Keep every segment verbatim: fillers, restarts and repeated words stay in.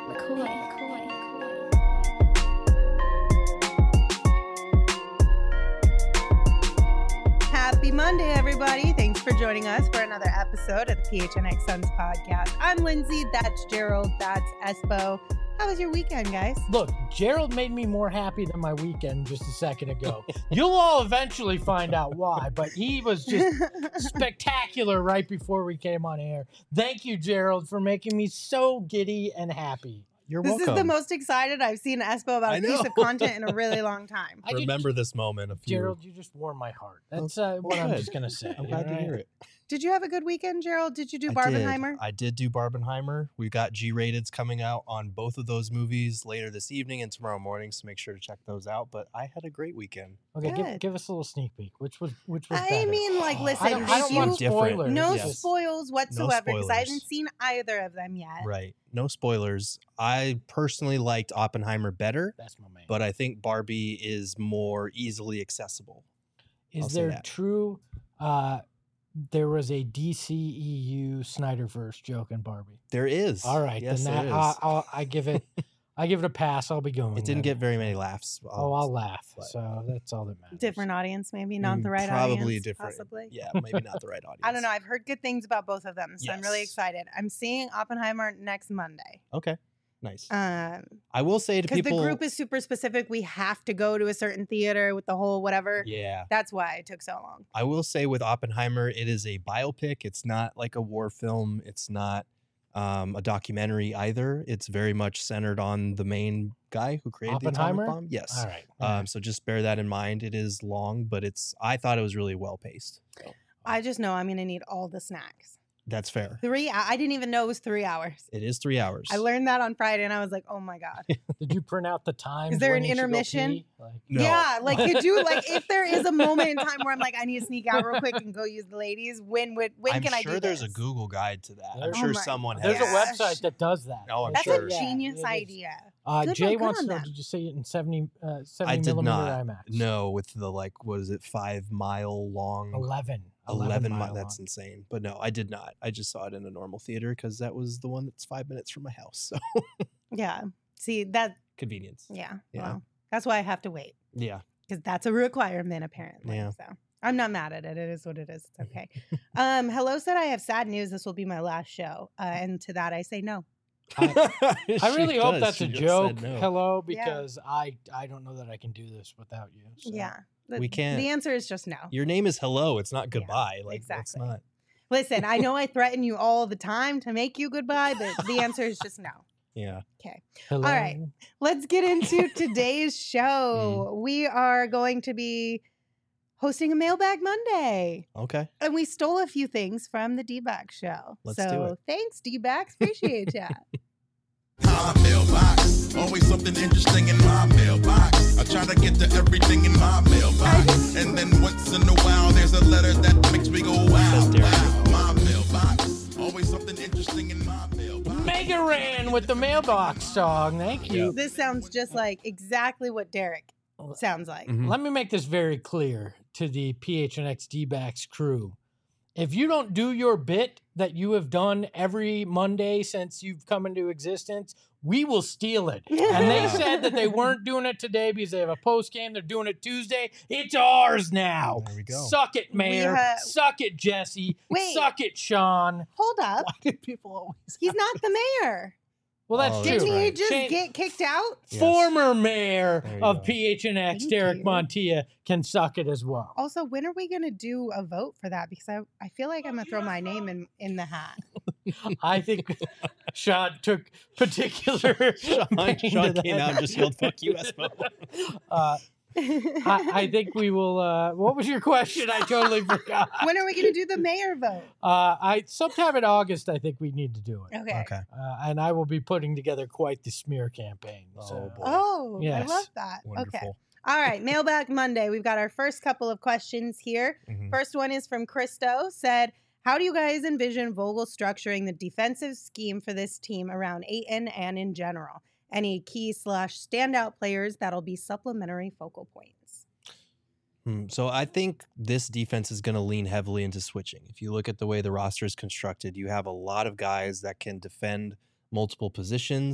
McCoy, McCoy, McCoy. Happy Monday, everybody. Thanks for joining us for another episode of the P H N X Suns podcast. I'm Lindsay. That's Gerald. That's Espo. How was your weekend, guys? Look, Gerald made me more happy than my weekend just a second ago. You'll all eventually find out why, but he was just spectacular right before we came on air. Thank you, Gerald, for making me so giddy and happy. You're This welcome. is the most excited I've seen Espo about I a piece know. of content in a really long time. I did- Remember this moment. A few. Gerald, you just warmed my heart. That's uh, what I'm good. just going to say. I'm glad to all hear right? it. Did you have a good weekend, Gerald? Did you do I Barbenheimer? Did. I did do Barbenheimer. We got G-rateds coming out on both of those movies later this evening and tomorrow morning, so make sure to check those out. But I had a great weekend. Okay, give, Good. give us a little sneak peek. Which was which was I better? mean, like, listen, I don't, if I don't you- want Different. spoilers. no Yes. spoils whatsoever because I spoilers. haven't seen either of them yet. Right. No spoilers. I personally liked Oppenheimer better, That's my man. but I think Barbie is more easily accessible. Is I'll say there that. true... Uh, there was a D C E U Snyderverse joke in Barbie. There is. All right, Yes, then there that is. I'll, I'll, I give it, I give it a pass. I'll be going. It didn't then. get very many laughs. Oh, I'll laugh. but- So that's all that matters. Different audience, maybe not the Mm, right probably audience. different. Possibly. Yeah, maybe not the right audience. I don't know. I've heard good things about both of them, so I'm really Yes. excited. I'm seeing Oppenheimer next Monday. Okay. Nice. Um, I will say to because people. the group is super specific. We have to go to a certain theater with the whole whatever. Yeah. That's why it took so long. I will say with Oppenheimer, it is a biopic. It's not like a war film. It's not um, a documentary either. It's very much centered on the main guy who created the Oppenheimer? atomic bomb. Yes. All right. all Um, right. so just bear that in mind. It is long, but it's. I thought it was really well paced. So I just know I'm going to need all the snacks. that's fair. Three. I I didn't even know it was three hours. It is three hours. I learned that on Friday, and I was like, "Oh my god!" Did you print out the time? there an intermission? No. Yeah, like could you like if there is a moment in time where I'm like, I need to sneak out real quick and go use the ladies. When would when I'm can I do sure there's this? a Google guide to that. I'm There's- sure Oh my someone There's has. a gosh. website that does that. Oh, I'm That's sure. a Yeah, genius it is. idea. Uh, Good Jay one, good wants on to know, that. did you say it in seventy, uh, seventy I did millimeter not. IMAX? No, with the like, what is it, five mile long? eleven. eleven mile mi- That's long. insane. But no, I did not. I just saw it in a normal theater because that was the one that's five minutes from my house. So Yeah. See that? convenience. Yeah. Yeah. Well, that's why I have to wait Yeah. because that's a requirement apparently. Yeah. So I'm not mad at it. It is what it is. It's okay. um, Hello said I have sad news. This will be my last show, uh, and to that I say no. I She really hope does. that's She a just joke. said no. Hello, Yeah. because I I don't know that I can do this without you. so. Yeah. The, We can't- The answer is just no. Your name is hello. It's not Yeah, goodbye. like that's exactly. not. Listen, I know I threaten you all the time to make you goodbye, but the answer is just no. Yeah. Okay. Hello. All right. Let's get into today's Mm. show. We are going to be hosting a Mailbag Monday. Okay. And we stole a few things from the D-Bag show. Let's so do it. thanks, D-Bags. Appreciate ya. My mailbox, always something interesting in my mailbox. I try to get to everything in my mailbox, and then once in a while there's a letter that makes me go wow, wow. My mailbox, always something interesting in my mailbox. Mega Ran with the mailbox song. Thank you. This sounds just like exactly what Derek sounds like. Mhm. Let me make this very clear to the P H N X D-Backs crew. If you don't do your bit that you have done every Monday since you've come into existence, we will steal it. And they said that they weren't doing it today because they have a post game. They're doing it Tuesday. It's ours now. There we go. Suck it, Mayor. ha- Suck it, Jesse. Wait. Suck it, Sean. Hold up. Why do people always? He's not the mayor. Well, that's Oh, true. that's Didn't he right. just Change- get kicked out? Yes. Former mayor There you of go. P H N X, Thank Derek you. Montilla, can suck it as well. Also, when are we going to do a vote for that? Because I, I feel like I'm going to throw my name in, in the hat. I think Sean took particular. Sean, pain to Sean that. came out and just yelled, "Fuck you, Espo." Uh, I, I think we will. Uh, what was your question? I totally forgot. When are we going to do the mayor vote? Uh, I sometime in August, I think we need to do it, Okay. Okay. uh, and I will be putting together quite the smear campaign. Oh, so. boy. Oh, Yes. I love that. Wonderful. Okay. All right. Mailbag Monday. We've got our first couple of questions here. Mhm. First one is from Christo. Said, how do you guys envision Vogel structuring the defensive scheme for this team around Ayton and in general? Any key slash standout players that'll be supplementary focal points? Hmm, So I think this defense is going to lean heavily into switching. If you look at the way the roster is constructed, you have a lot of guys that can defend multiple positions.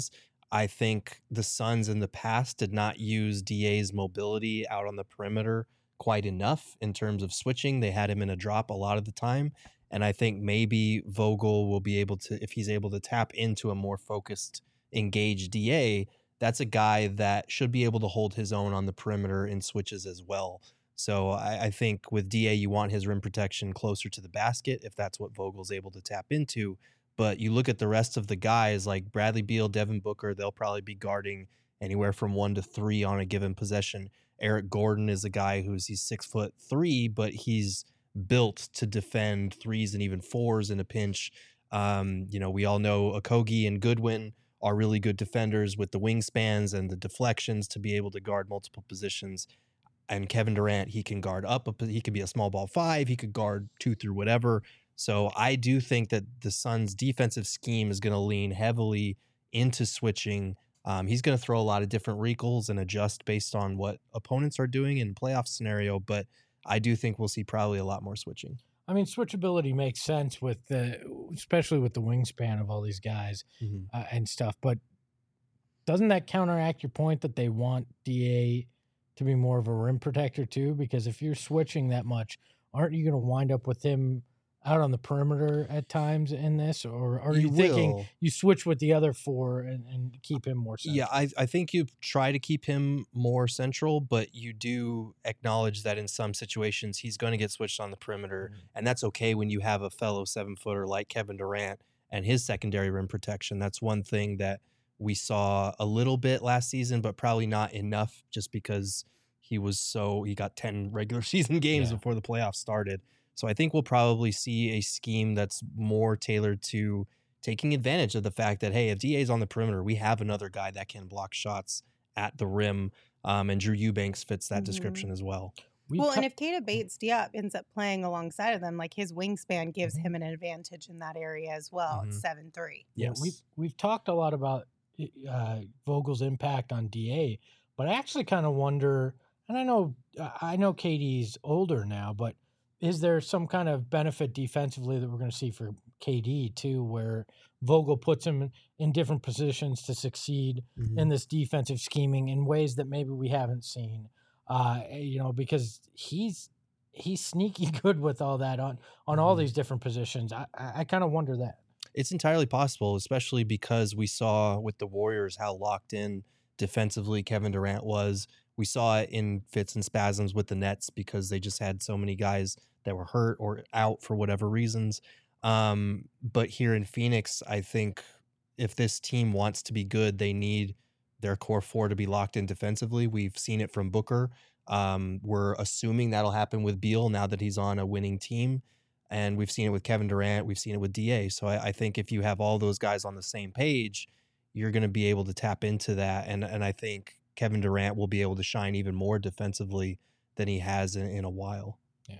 I think the Suns in the past did not use D A's mobility out on the perimeter quite enough in terms of switching. They had him in a drop a lot of the time. And I think maybe Vogel will be able to, if he's able to tap into a more focused, engaged D A, that's a guy that should be able to hold his own on the perimeter in switches as well. So I, I think with D A, you want his rim protection closer to the basket if that's what Vogel's able to tap into. But you look at the rest of the guys like Bradley Beal, Devin Booker, they'll probably be guarding anywhere from one to three on a given possession. Eric Gordon is a guy who's he's six foot three, but he's built to defend threes and even fours in a pinch. Um, you know, we all know Okogie and Goodwin are really good defenders with the wingspans and the deflections to be able to guard multiple positions. And Kevin Durant, he can guard up. He could be a small ball five. He could guard two through whatever. So I do think that the Suns' defensive scheme is going to lean heavily into switching. Um, he's going to throw a lot of different wrinkles and adjust based on what opponents are doing in playoff scenario. But I do think we'll see probably a lot more switching. I mean, switchability makes sense with the, especially with the wingspan of all these guys mm-hmm. uh, and stuff. But doesn't that counteract your point that they want D A to be more of a rim protector too? Because if you're switching that much, aren't you going to wind up with him out on the perimeter at times in this, or are you, you thinking you switch with the other four and, and keep him more central? Yeah, I, I think you try to keep him more central, but you do acknowledge that in some situations he's going to get switched on the perimeter, mm-hmm. and that's okay when you have a fellow seven-footer like Kevin Durant and his secondary rim protection. That's one thing that we saw a little bit last season, but probably not enough just because he was so he got ten regular season games yeah. before the playoffs started. So I think we'll probably see a scheme that's more tailored to taking advantage of the fact that, hey, if D A is on the perimeter, we have another guy that can block shots at the rim, um, and Drew Eubanks fits that mm-hmm. description as well. We well, t- and if Keita Bates-Diop ends up playing alongside of them, like his wingspan gives mm-hmm. him an advantage in that area as well. Mm-hmm. It's seven three. Yes. Yeah, we've, we've talked a lot about uh, Vogel's impact on D A, but I actually kind of wonder, and I know I know K D's older now, but is there some kind of benefit defensively that we're going to see for K D too, where Vogel puts him in different positions to succeed mm-hmm. in this defensive scheming in ways that maybe we haven't seen? Uh, you know, because he's he's sneaky good with all that on on all mm-hmm. these different positions. I I, I kind of wonder that. It's entirely possible, especially because we saw with the Warriors how locked in defensively Kevin Durant was. We saw it in fits and spasms with the Nets because they just had so many guys that were hurt or out for whatever reasons. Um, but here in Phoenix, I think if this team wants to be good, they need their core four to be locked in defensively. We've seen it from Booker. Um, we're assuming that'll happen with Beal now that he's on a winning team. And we've seen it with Kevin Durant. We've seen it with D A. So I, I think if you have all those guys on the same page, you're going to be able to tap into that. And, and I think Kevin Durant will be able to shine even more defensively than he has in, in a while.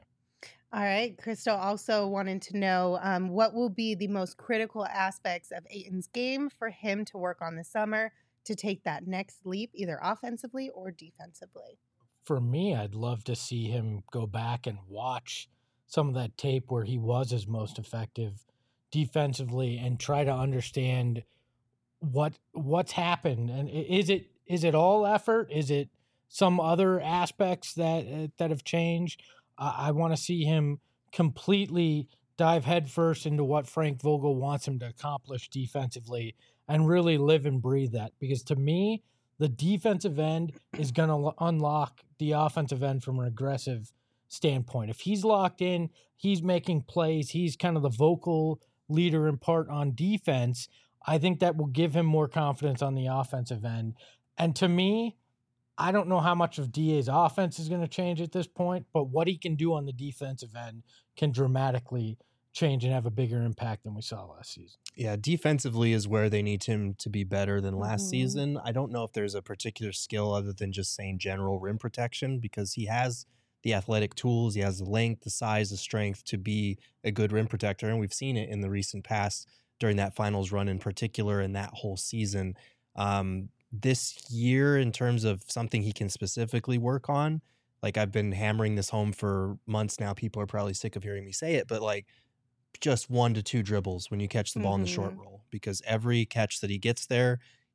All right. Crystal also wanted to know um, what will be the most critical aspects of Ayton's game for him to work on this summer to take that next leap, either offensively or defensively. For me, I'd love to see him go back and watch some of that tape where he was his most effective defensively and try to understand what what's happened. And is it is it all effort? Is it some other aspects that uh, that have changed? I want to see him completely dive headfirst into what Frank Vogel wants him to accomplish defensively and really live and breathe that. Because to me, the defensive end is going to unlock the offensive end from an aggressive standpoint. If he's locked in, he's making plays, he's kind of the vocal leader in part on defense, I think that will give him more confidence on the offensive end. And to me, I don't know how much of D A's offense is going to change at this point, but what he can do on the defensive end can dramatically change and have a bigger impact than we saw last season. Yeah, defensively is where they need him to be better than last mm-hmm. season. I don't know if there's a particular skill other than just saying general rim protection, because he has the athletic tools, he has the length, the size, the strength to be a good rim protector, and we've seen it in the recent past during that finals run in particular and that whole season. Um, This year, in terms of something he can specifically work on, like I've been hammering this home for months now. People are probably sick of hearing me say it, but like just one to two dribbles when you catch the ball mm-hmm. in the short roll, because every catch that he gets there,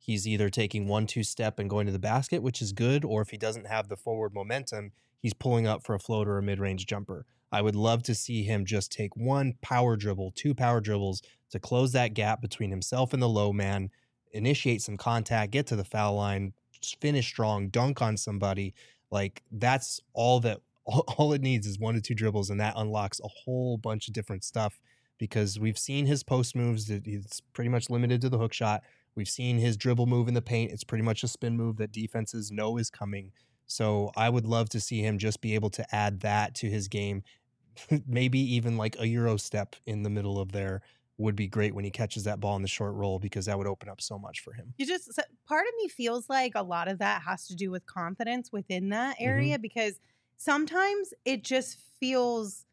he's either taking one, two step and going to the basket, which is good, or if he doesn't have the forward momentum, he's pulling up for a floater or a mid-range jumper. I would love to see him just take one power dribble, two power dribbles to close that gap between himself and the low man, initiate some contact, get to the foul line, finish strong, dunk on somebody. Like, that's all that all, all it needs is one to two dribbles, and that unlocks a whole bunch of different stuff, because we've seen his post moves that it's pretty much limited to the hook shot. We've seen his dribble move in the paint. It's pretty much a spin move that defenses know is coming. So I would love to see him just be able to add that to his game. Maybe even like a Euro step in the middle of there would be great when he catches that ball in the short roll, because that would open up so much for him. You just, part of me feels like a lot of that has to do with confidence within that area, mm-hmm. because sometimes it just feels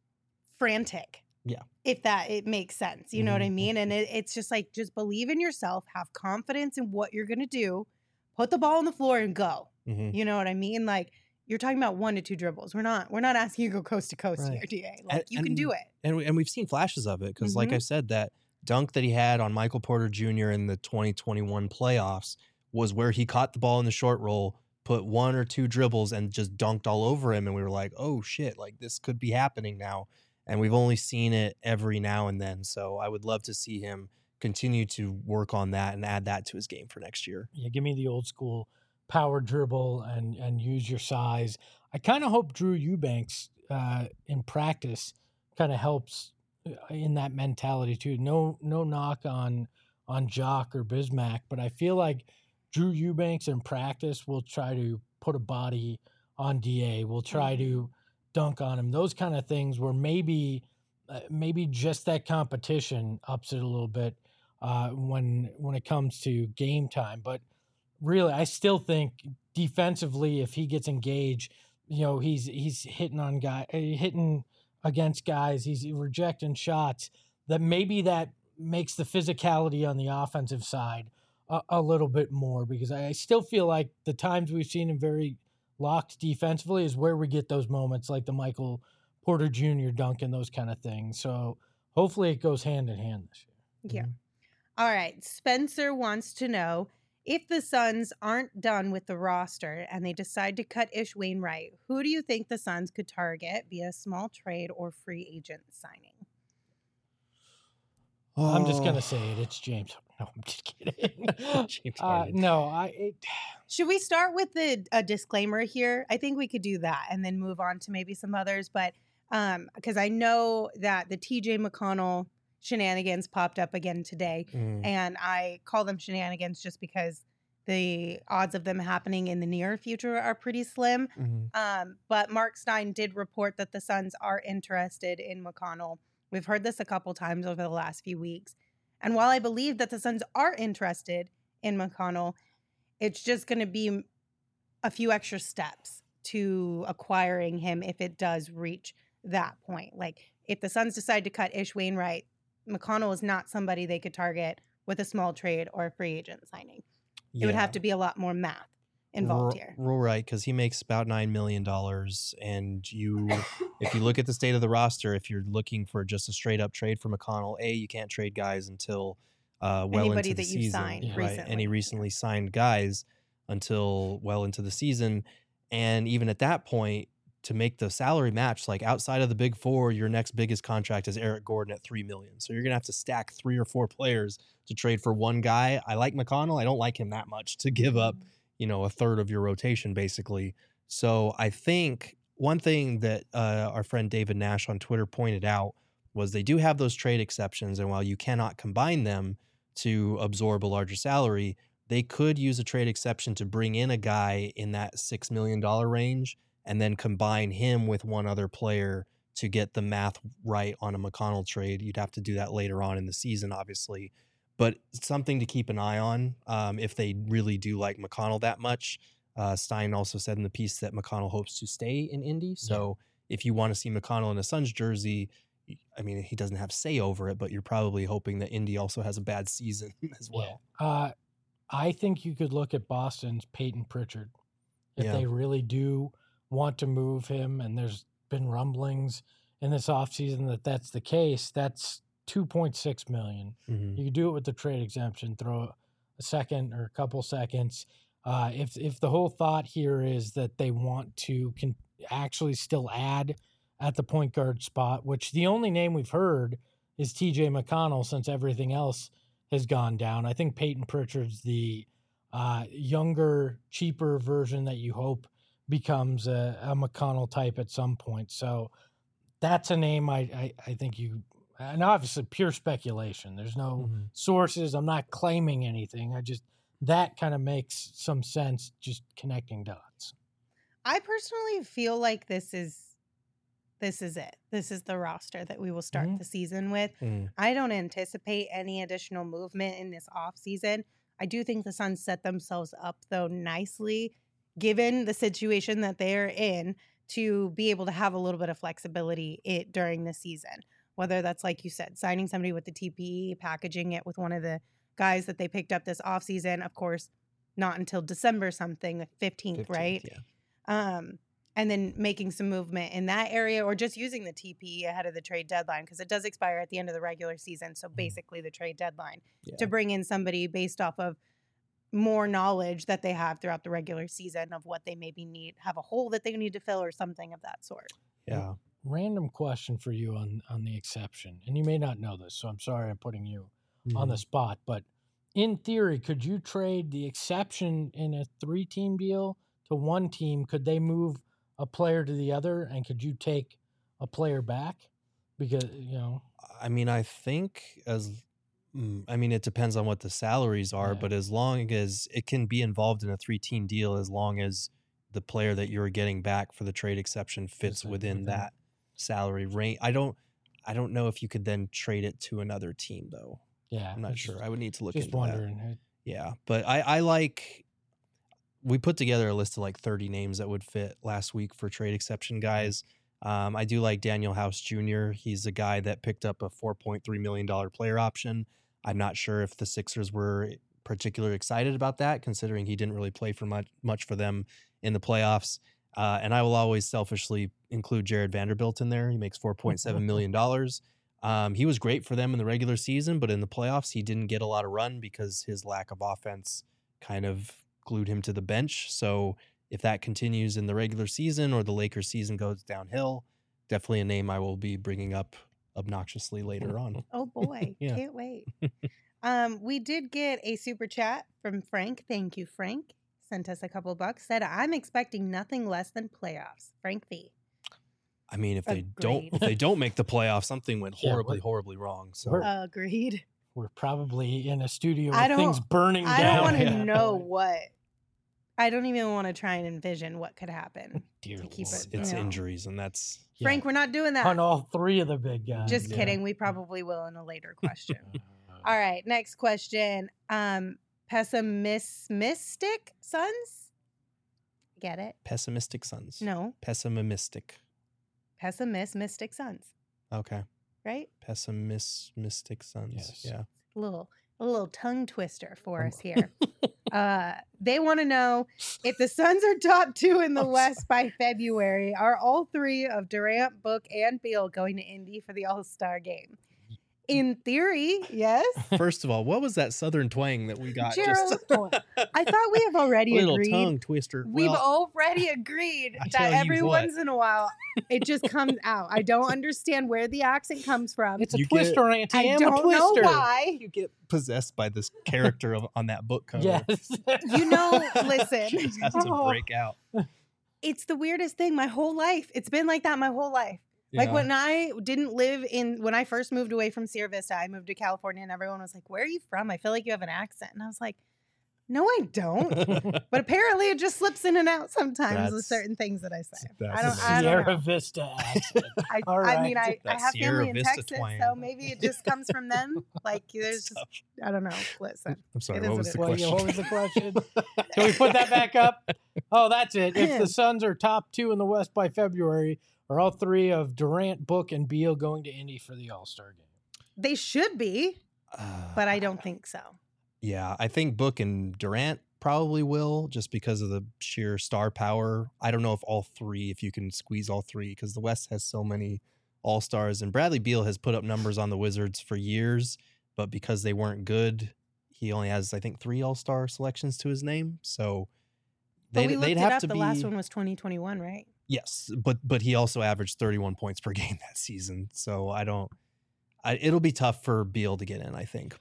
frantic. Yeah. If that, it makes sense. You mm-hmm. know what I mean? And it, it's just like, just believe in yourself, have confidence in what you're going to do, put the ball on the floor and go. Mm-hmm. You know what I mean? Like, you're talking about one to two dribbles. We're not, we're not asking you to go coast to coast right. here, D A. Like, and, you can and, do it. And, we, and we've seen flashes of it. Cause mm-hmm. like I said, that dunk that he had on Michael Porter Junior in the twenty twenty-one playoffs was where he caught the ball in the short roll, put one or two dribbles and just dunked all over him. And we were like, oh shit, like this could be happening now. And we've only seen it every now and then. So I would love to see him continue to work on that and add that to his game for next year. Yeah, give me the old school power dribble and and use your size. I kind of hope Drew Eubanks uh, in practice kind of helps in that mentality too. No no knock on on Jock or Bismack, but I feel like Drew Eubanks in practice will try to put a body on D A. Will try to dunk on him. Those kind of things where maybe uh, maybe just that competition ups it a little bit uh, when when it comes to game time. But really, I still think defensively, if he gets engaged, you know, he's he's hitting on guy, hitting against guys, he's rejecting shots. That maybe that makes the physicality on the offensive side a, a little bit more, because I still feel like the times we've seen him very locked defensively is where we get those moments like the Michael Porter Junior dunk and those kind of things. So hopefully it goes hand in hand this year. Yeah. Mm-hmm. All right. Spencer wants to know, if the Suns aren't done with the roster and they decide to cut Ish Wainwright, who do you think the Suns could target via small trade or free agent signing? Oh. I'm just going to say it. It's James. No, I'm just kidding. James uh, no, I. It... Should we start with the, a disclaimer here? I think we could do that and then move on to maybe some others. But um, because I know that the T J McConnell shenanigans popped up again today. Mm. And I call them shenanigans just because the odds of them happening in the near future are pretty slim. Mm-hmm. Um, but Mark Stein did report that the Suns are interested in McConnell. We've heard this a couple times over the last few weeks. And while I believe that the Suns are interested in McConnell, it's just going to be a few extra steps to acquiring him if it does reach that point. Like, if the Suns decide to cut Ish Wainwright, McConnell is not somebody they could target with a small trade or a free agent signing. Yeah. It would have to be a lot more math involved R- here. Right, because he makes about nine million dollars. And you, if you look at the state of the roster, if you're looking for just a straight up trade for McConnell, A, you can't trade guys until uh, well Anybody into the that season. You've signed right? recently. Any recently signed guys until well into the season. And even at that point, to make the salary match, like outside of the big four, your next biggest contract is Eric Gordon at three million dollars. So you're going to have to stack three or four players to trade for one guy. I like McConnell. I don't like him that much to give up, you know, a third of your rotation basically. So I think one thing that uh, our friend David Nash on Twitter pointed out was they do have those trade exceptions. And while you cannot combine them to absorb a larger salary, they could use a trade exception to bring in a guy in that six million dollars range and then combine him with one other player to get the math right on a McConnell trade. You'd have to do that later on in the season, obviously. But something to keep an eye on um, if they really do like McConnell that much. Uh, Stein also said in the piece that McConnell hopes to stay in Indy. So yeah. if you want to see McConnell in a Suns jersey, I mean, he doesn't have say over it, but you're probably hoping that Indy also has a bad season as well. Yeah. Uh, I think you could look at Boston's Peyton Pritchard. If yeah. they really do want to move him, and there's been rumblings in this offseason that that's the case, that's two point six million dollars. Mm-hmm. You could do it with the trade exemption, throw a second or a couple seconds. Uh, if if the whole thought here is that they want to can actually still add at the point guard spot, which the only name we've heard is T J McConnell since everything else has gone down. I think Peyton Pritchard's the uh, younger, cheaper version that you hope becomes a, a McConnell type at some point. So that's a name I, I, I think you, and obviously pure speculation. There's no Mm-hmm. sources. I'm not claiming anything. I just, that kind of makes some sense just connecting dots. I personally feel like this is this is it. This is the roster that we will start Mhm. the season with. Mm. I don't anticipate any additional movement in this offseason. I do think the Suns set themselves up though nicely, given the situation that they're in, to be able to have a little bit of flexibility it during the season. Whether that's, like you said, signing somebody with the T P E, packaging it with one of the guys that they picked up this offseason. Of course, not until December something, the fifteenth, right? Yeah. Um, and then making some movement in that area, or just using the T P E ahead of the trade deadline, because it does expire at the end of the regular season. So basically the trade deadline Yeah. to bring in somebody based off of more knowledge that they have throughout the regular season of what they maybe need, have a hole that they need to fill or something of that sort. Yeah. Random question for you on, on the exception. And you may not know this, so I'm sorry I'm putting you on the spot, but in theory, could you trade the exception in a three-team deal to one team? Could they move a player to the other, and could you take a player back? Because, you know, I mean, I think as mm, I mean, it depends on what the salaries are, Yeah. but as long as it can be involved in a three-team deal, as long as the player that you're getting back for the trade exception fits Fits within within. that salary range. I don't, I don't know if you could then trade it to another team though. yeah, I'm not it's sure. I would need to look Just into that. wondering. Yeah, but I, I like. We put together a list of like thirty names that would fit last week for trade exception guys. Um, I do like Daniel House Junior He's a guy that picked up a four point three million dollars player option. I'm not sure if the Sixers were particularly excited about that, considering he didn't really play for much, much for them in the playoffs. Uh, and I will always selfishly include Jared Vanderbilt in there. He makes four point seven million dollars. Um, he was great for them in the regular season, but in the playoffs, he didn't get a lot of run because his lack of offense kind of glued him to the bench. So if that continues in the regular season or the Lakers season goes downhill, definitely a name I will be bringing up obnoxiously later on. Oh boy, Yeah. can't wait. um, we did get a super chat from Frank. Thank you, Frank. Sent us a couple bucks. Said, I'm expecting nothing less than playoffs. Frank V. I mean, if they don't Agreed. if they don't make the playoffs, something went Yeah, horribly, we're- horribly wrong. So we're- Agreed. We're probably in a studio I with things don't- burning I down. don't want to Yeah. know what. I don't even want to try and envision what could happen. Dear to keep Lord. it- it's no. injuries, and that's Yeah. Frank, we're not doing that. On all three of the big guys. Just yeah. kidding. We probably will in a later question. Uh, All right, next question. Um, pessimistic Suns? Get it? pessimistic Suns. No, Pessimistic. pessimistic Suns, Okay. right? Pessimistic Suns. Yes. Yeah. A little, a little tongue twister for Um, us here. uh, they want to know if the Suns are top two in the I'm West by February. Are all three of Durant, Book, and Beal going to Indy for the All Star game? In theory, yes. First of all, what was that Southern twang that we got? Gerald, Just I thought we have already little agreed. tongue twister. We've Well, already agreed I tell that you every what. once in a while it just comes out. I don't understand where the accent comes from. It's a You get- twister, Auntie. I I'm don't a know twister. why. you get possessed by this character of, on that book cover. Yes. You know, listen, Just has to Oh. break out. it's the weirdest thing. My whole life, it's been like that my whole life. Like Yeah. when I didn't live in, when I first moved away from Sierra Vista, I moved to California and everyone was like, where are you from? I feel like you have an accent. And I was like, no, I don't. But apparently it just slips in and out sometimes with That's- certain things that I say. that's I don't, the I don't Sierra know. Vista accent. I, All I mean, right. I, I That have Sierra family in Vista Texas, twang. so maybe it just comes from them. Like there's just, Tough. I don't know. Listen, I'm sorry. it is What what was it the Well, yeah, question? what was the question? Can we put that back up? Oh, that's it. If the Suns are top two in the West by February, are all three of Durant, Book, and Beal going to Indy for the All-Star game? they should be, Uh, but I don't think so. Yeah, I think Book and Durant probably will, just because of the sheer star power. I don't know if all three, if you can squeeze all three, because the West has so many all stars, and Bradley Beal has put up numbers on the Wizards for years, but because they weren't good, he only has, I think, three All-Star selections to his name. So But they'd, we looked they'd it have up. to The be. last one was twenty twenty-one, right? Yes, but but he also averaged thirty-one points per game that season. So I don't. I, it'll be tough for Beal to get in, I think.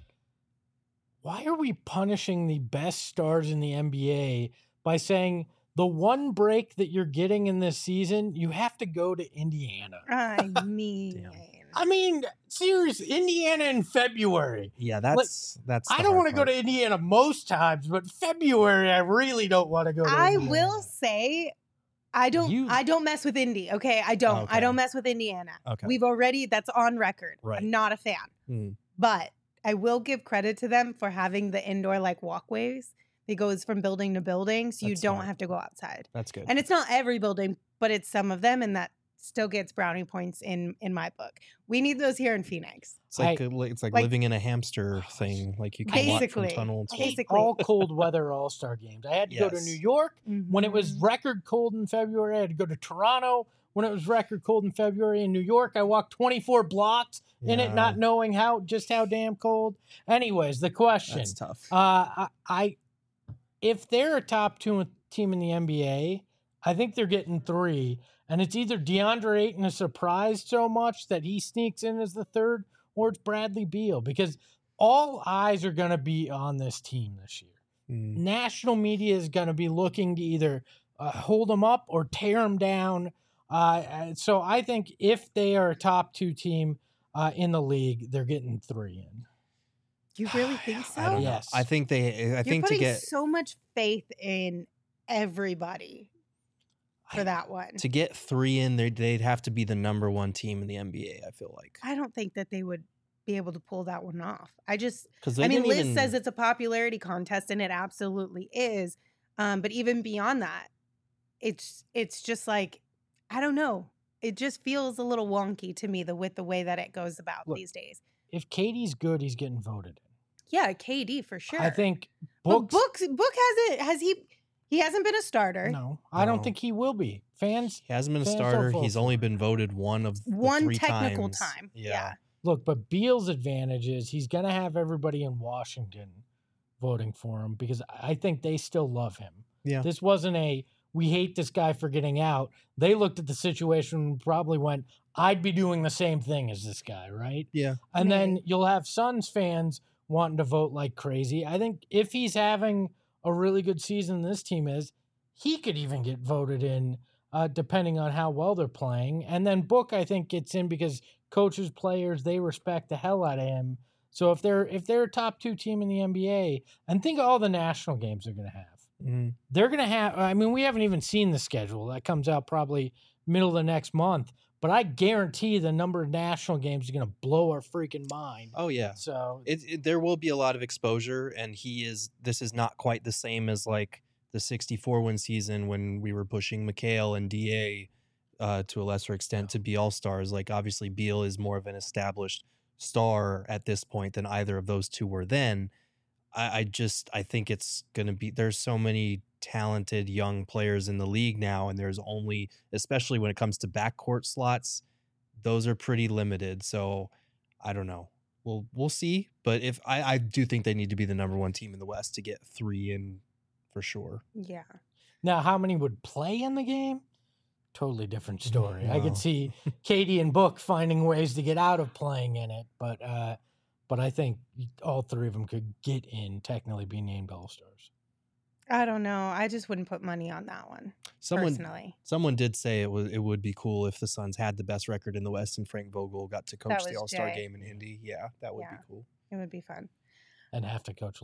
Why are we punishing the best stars in the N B A by saying the one break that you're getting in this season, you have to go to Indiana? I mean, I mean, seriously, Indiana in February. Yeah, that's that's. I the don't hard want to go part. to Indiana most times, but February, I really don't want to go to I Indiana. will say, I don't. You- I don't mess with Indy. Okay, I don't. Okay. I don't mess with Indiana. Okay. We've already. That's on record. Right. I'm not a fan, Hmm. but I will give credit to them for having the indoor like walkways. It goes from building to building, so you That's don't smart. have to go outside. That's good. And it's not every building, but it's some of them, and that still gets brownie points in in my book. We need those here in Phoenix. It's like I- a- it's like, like- living in a hamster thing. Like you can walk from Basically. tunnel to I hate Basically. all cold weather All Star games. I had to go to Yes. New York when it was Mhm. record cold in February. I had to go to Toronto when it was record cold in February. In New York, I walked twenty-four blocks in it, Yeah. not knowing how just how damn cold. Anyways, the question: That's tough. uh, I, I if they're a top two team in the N B A, I think they're getting three, and it's either DeAndre Ayton is surprised so much that he sneaks in as the third, or it's Bradley Beal, because all eyes are going to be on this team this year. Mm. National media is going to be looking to either uh, hold them up or tear them down. Uh, and so I think if they are a top two team uh, in the league, they're getting three in. You really think so? I don't know. Yes. I think they. I You're think to putting get so much faith in everybody for I- that one. to get three in, they'd they'd have to be the number one team in the N B A. I feel like I don't think that they would be able to pull that one off. I just, because I mean, Liz says it's a popularity contest, and it absolutely is. Um, but even beyond that, it's it's just like, I don't know. It just feels a little wonky to me the with the way that it goes about Look, these days. If Katie's good, he's getting voted in. Yeah, K D for sure. I think But Book's, Book Book hasn't has he he hasn't been a starter. no, I don't No. think he will be. Fans, he hasn't been a fans will starter. vote He's for only him. been voted one of the One three technical times. time. Yeah. Yeah. look, but Beal's advantage is he's going to have everybody in Washington voting for him because I think they still love him. Yeah. This wasn't a, we hate this guy for getting out. They looked at the situation and probably went, I'd be doing the same thing as this guy, right? Yeah. And then Maybe. you'll have Suns fans wanting to vote like crazy. I think if he's having a really good season, this team is, he could even get voted in uh, depending on how well they're playing. And then Book, I think, gets in because coaches, players, they respect the hell out of him. So if they're if they're a top two team in the N B A, and think of all the national games they're going to have. Mhm. They're going to have, I mean, we haven't even seen the schedule. That comes out probably middle of the next month. But I guarantee the number of national games is going to blow our freaking mind. Oh yeah. So It, it there will be a lot of exposure, and he is. This is not quite the same as like the sixty-four win season when we were pushing McHale and D A uh, to a lesser extent to be all stars. Like obviously Beal is more of an established star at this point than either of those two were then. I, I just I think it's gonna be. There's so many talented young players in the league now, and there's only, especially when it comes to backcourt slots, those are pretty limited. So I don't know. We'll we'll see. But if I, I do think they need to be the number one team in the West to get three in for sure. Yeah. now, how many would play in the game? Totally different story. I Wow. could see Katie and Book finding ways to get out of playing in it, but uh, but I think all three of them could get in, technically be named All Stars. I don't know. I just wouldn't put money on that one Someone personally. someone did say it was it would be cool if the Suns had the best record in the West and Frank Vogel got to coach the was All Star Jay. game in Indy. Yeah, that would Yeah. be cool. It would be fun. And have to coach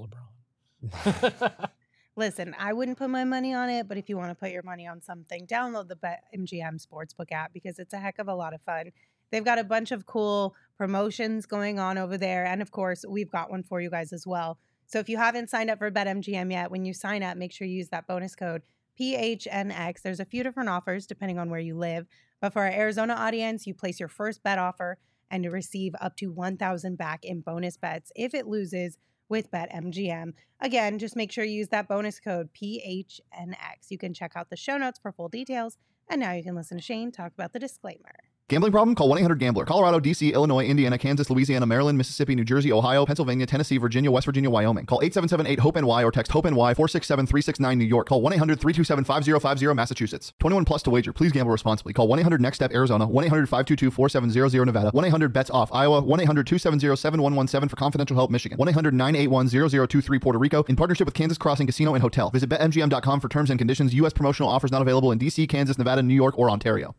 LeBron. Listen, I wouldn't put my money on it, but if you want to put your money on something, download the BetMGM Sportsbook app because it's a heck of a lot of fun. They've got a bunch of cool promotions going on over there. And of course, we've got one for you guys as well. So if you haven't signed up for BetMGM yet, when you sign up, make sure you use that bonus code P H N X. There's a few different offers depending on where you live. But for our Arizona audience, you place your first bet offer and you receive up to one thousand dollars back in bonus bets if it loses with BetMGM. Again, just make sure you use that bonus code P H N X. You can check out the show notes for full details. And now you can listen to Shane talk about the disclaimer. Gambling problem? Call one eight hundred gambler. Colorado, D C, Illinois, Indiana, Kansas, Louisiana, Maryland, Mississippi, New Jersey, Ohio, Pennsylvania, Tennessee, Virginia, West Virginia, Wyoming. Call eight seven seven eight hope N Y or text HOPE-NY four six seven three six nine New York. Call one eight hundred three two seven five zero five zero Massachusetts. twenty-one plus to wager. Please gamble responsibly. Call one eight hundred next step Arizona, one eight hundred five two two four seven zero zero Nevada, one eight hundred bets off Iowa, one eight hundred two seven zero seven one one seven for confidential help Michigan, one eight hundred nine eight one zero zero two three Puerto Rico in partnership with Kansas Crossing Casino and Hotel. Visit bet M G M dot com for terms and conditions. U S promotional offers not available in D C, Kansas, Nevada, New York, or Ontario.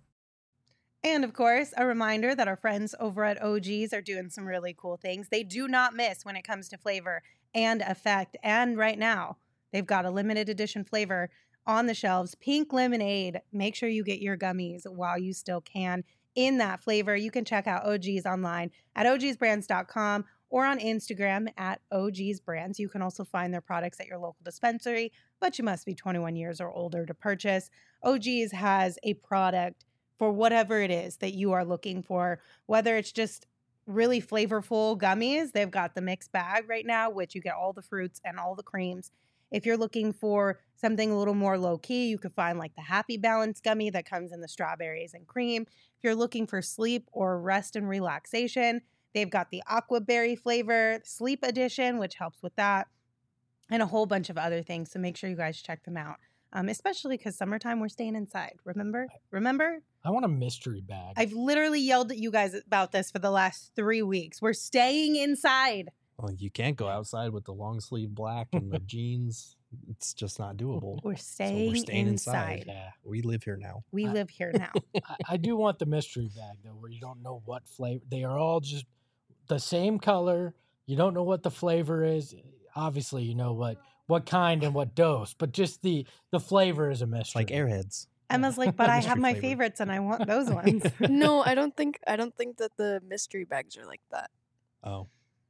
And of course, a reminder that our friends over at O G's are doing some really cool things. They do not miss when it comes to flavor and effect. And right now, they've got a limited edition flavor on the shelves, pink lemonade. Make sure you get your gummies while you still can in that flavor. You can check out O G's online at O Gs brands dot com or on Instagram at O G's Brands. You can also find their products at your local dispensary, but you must be twenty-one years or older to purchase. O G's has a product for whatever it is that you are looking for, whether it's just really flavorful gummies. They've got the mixed bag right now, which you get all the fruits and all the creams. If you're looking for something a little more low key, you could find like the Happy Balance gummy that comes in the strawberries and cream. If you're looking for sleep or rest and relaxation, they've got the Aqua Berry flavor, Sleep Edition, which helps with that, and a whole bunch of other things. So make sure you guys check them out. Um, especially because summertime, we're staying inside. Remember? Remember? I want a mystery bag. I've literally yelled at you guys about this for the last three weeks. We're staying inside. Well, you can't go outside with the long sleeve black and the jeans. It's just not doable. We're So staying, we're staying inside. inside. Yeah. We live here now. We I- live here now. I, I do want the mystery bag though, where you don't know what flavor. They are all just the same color. You don't know what the flavor is. Obviously, you know what what kind and what dose, but just the the flavor is a mystery. It's like Airheads. Emma's like, but I have Mystery my flavor. favorites and I want those ones. No, I don't think I don't think that the mystery bags are like that. Oh,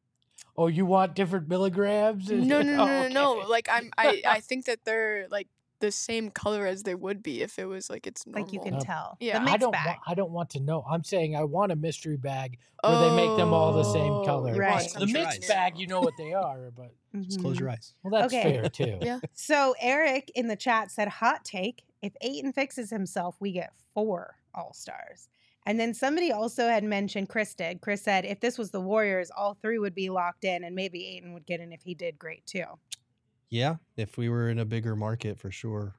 Oh, you want different milligrams? No, no, no, Oh, no, no. okay. Like I'm, I, I think that they're like the same color as they would be if it was like it's normal. Like you can Uh, tell. yeah. The I I mixed don't. bag. Want, I don't want to know. I'm saying I want a mystery bag where they make them all the same Oh, color. you Right. want The The something mixed new. bag, you know what they are, but just close Mhm. your eyes. well, that's Okay. fair too. Yeah. So Eric in the chat said, hot take, if Ayton fixes himself, we get four All-Stars. And then somebody also had mentioned, Chris did. Chris said, if this was the Warriors, all three would be locked in and maybe Ayton would get in if he did great too. Yeah, if we were in a bigger market, for sure.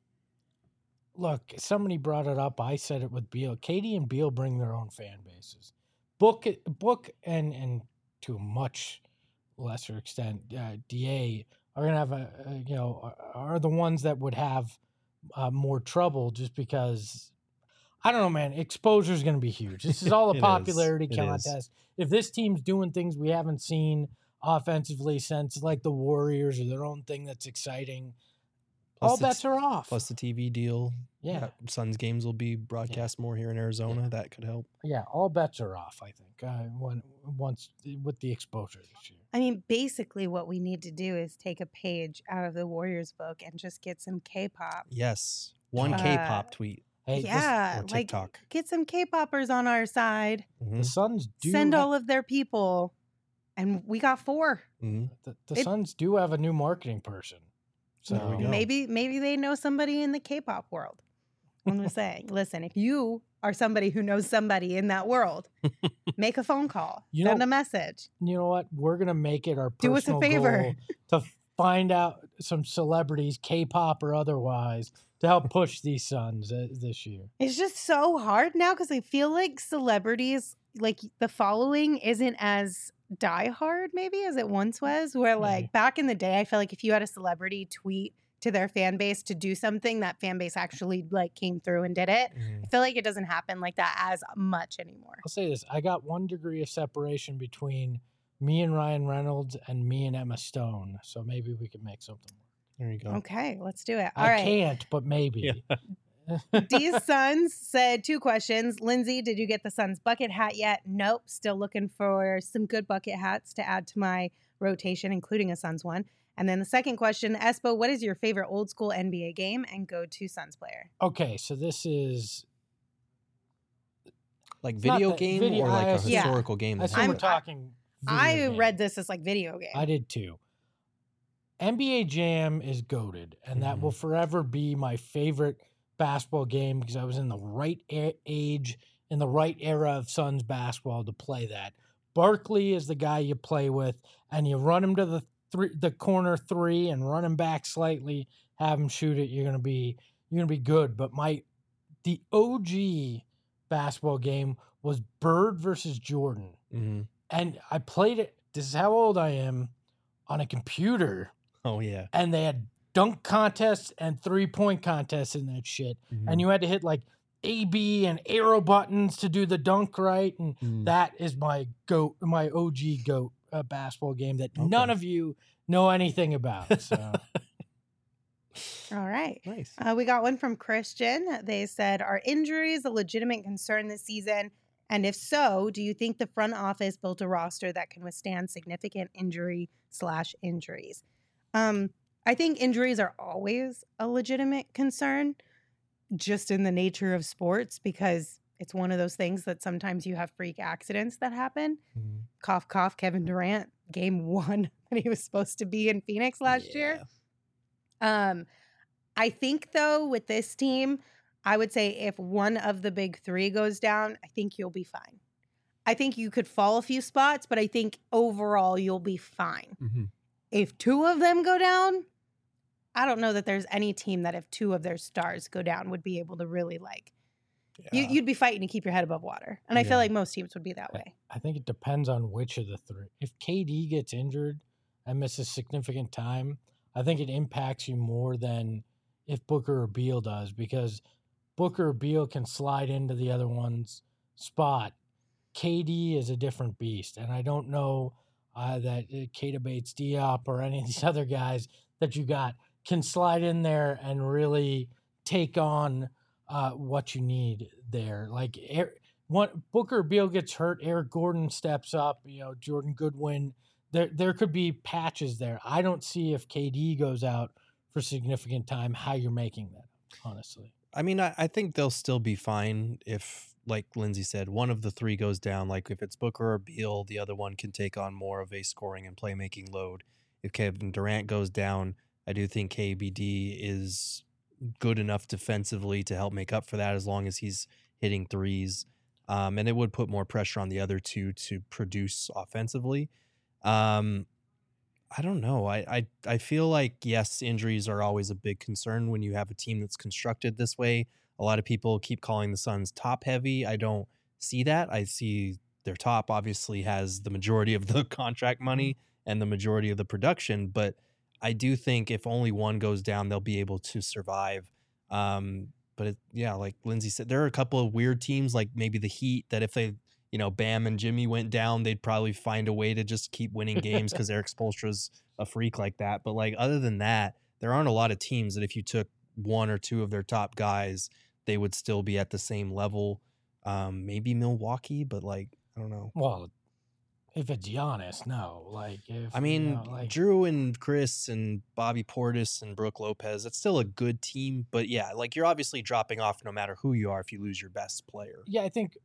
Look, somebody brought it up. I said it with Beal. Katie and Beal bring their own fan bases. Book, Book, and and to a much lesser extent, uh, D A are gonna have a, a you know are are the ones that would have uh, more trouble just because I don't know, man. Exposure is gonna be huge. This is all It a is. popularity It is. contest. If this team's doing things we haven't seen offensively since like the Warriors or their own thing that's exciting, Plus all the bets t- are off. Plus the T V deal. Yeah. Uh, Suns games will be broadcast more here in Arizona. That could help. Yeah, all bets are off. I think uh, when once with the exposure this year. I mean, basically what we need to do is take a page out of the Warriors book and just get some K-pop. Yes, one Uh, K-pop tweet. Hey, this- yeah, or like TikTok. get some K-poppers on our side. Mhm, the Suns do Send ha- all of their people. And we got four. mhm. the, the it- Suns do have a new marketing person. So There we go. Maybe maybe they know somebody in the K-pop world. I'm just saying, listen, if you are somebody who knows somebody in that world, make a phone call, You send know- a message. you know what? We're gonna make it our Do us a personal favor. goal to find out some celebrities, K-pop or otherwise, to help push these Suns uh, this year. It's just so hard now because I feel like celebrities, like the following isn't as diehard maybe as it once was. Where like back in the day, I feel like if you had a celebrity tweet to their fan base to do something, that fan base actually like came through and did it. Mhm. I feel like it doesn't happen like that as much anymore. I'll say this: I got one degree of separation between me and Ryan Reynolds and me and Emma Stone, so maybe we can make something work. There you go. Okay, let's do it. All I right. can't, but maybe. D's Sons said two questions. Lindsay, did you get the Suns bucket hat yet? Nope. Still looking for some good bucket hats to add to my rotation, including a Suns one. And then the second question, Espo, what is your favorite old school N B A game and go-to Suns player? Okay, so this is Like It's not video the game video- or like I a assume- Yeah. historical game. I that assume I'm- we're happened? talking. video I game. read this as like video game. I did too. N B A Jam is goated, and that Mhm. will forever be my favorite basketball game because I was in the right a- age in the right era of Suns basketball to play that. Barkley is the guy you play with, and you run him to the three, the corner three, and run him back slightly, have him shoot it. You're gonna be you're gonna be good. But my the O G basketball game was Bird versus Jordan, Mm-hmm. and I played it. This is how old I am, on a computer, Oh yeah. and they had dunk contests and three point contests in that shit, Mhm. and you had to hit like A B and arrow buttons to do the dunk right, and Mm. that is my goat, my O G goat uh, basketball game that Okay. none of you know anything about. So All right. Nice. Uh, we got one from Christian. They said, are injuries a legitimate concern this season? And if so, do you think the front office built a roster that can withstand significant injury slash injuries? Um, I think injuries are always a legitimate concern, just in the nature of sports, because it's one of those things that sometimes you have freak accidents that happen. Mhm. Cough, cough, Kevin Durant, game one when he was supposed to be in Phoenix last year. Yeah. Um, I think though with this team, I would say if one of the big three goes down, I think you'll be fine. I think you could fall a few spots, but I think overall you'll be fine. Mhm. If two of them go down, I don't know that there's any team that if two of their stars go down would be able to really like you, Yeah. you'd be fighting to keep your head above water. And I Yeah. feel like most teams would be that way. I think it depends on which of the three. If K D gets injured and misses significant time, I think it impacts you more than if Booker or Beal does, because Booker or Beal can slide into the other one's spot. K D is a different beast, and I don't know uh, that uh, Keita Bates Diop or any of these other guys that you got can slide in there and really take on uh, what you need there. Like Air, one, Booker Beal gets hurt, Eric Gordon steps up, you know, Jordan Goodwin. There, there could be patches there. I don't see if K D goes out for significant time how you're making that, honestly. I mean, I, I think they'll still be fine if, like Lindsay said, one of the three goes down. Like if it's Booker or Beal, the other one can take on more of a scoring and playmaking load. If Kevin Durant goes down, I do think K B D is good enough defensively to help make up for that as long as he's hitting threes. Um, and it would put more pressure on the other two to produce offensively. Um, I don't know. I, I I feel like, yes, injuries are always a big concern when you have a team that's constructed this way. A lot of people keep calling the Suns top heavy. I don't see that. I see their top obviously has the majority of the contract money and the majority of the production, but I do think if only one goes down, they'll be able to survive. Um, but it, yeah, like Lindsay said, there are a couple of weird teams, like maybe the Heat, that if they, you know, Bam and Jimmy went down, they'd probably find a way to just keep winning games because Eric Spoelstra's a freak like that. But like other than that, there aren't a lot of teams that if you took one or two of their top guys, they would still be at the same level. Um, maybe Milwaukee, but like I don't know. Well, if it's Giannis, no. Like, if I mean, you know, like, Drew and Chris and Bobby Portis and Brooke Lopez, it's still a good team. But yeah, like you're obviously dropping off no matter who you are if you lose your best player. yeah, I think,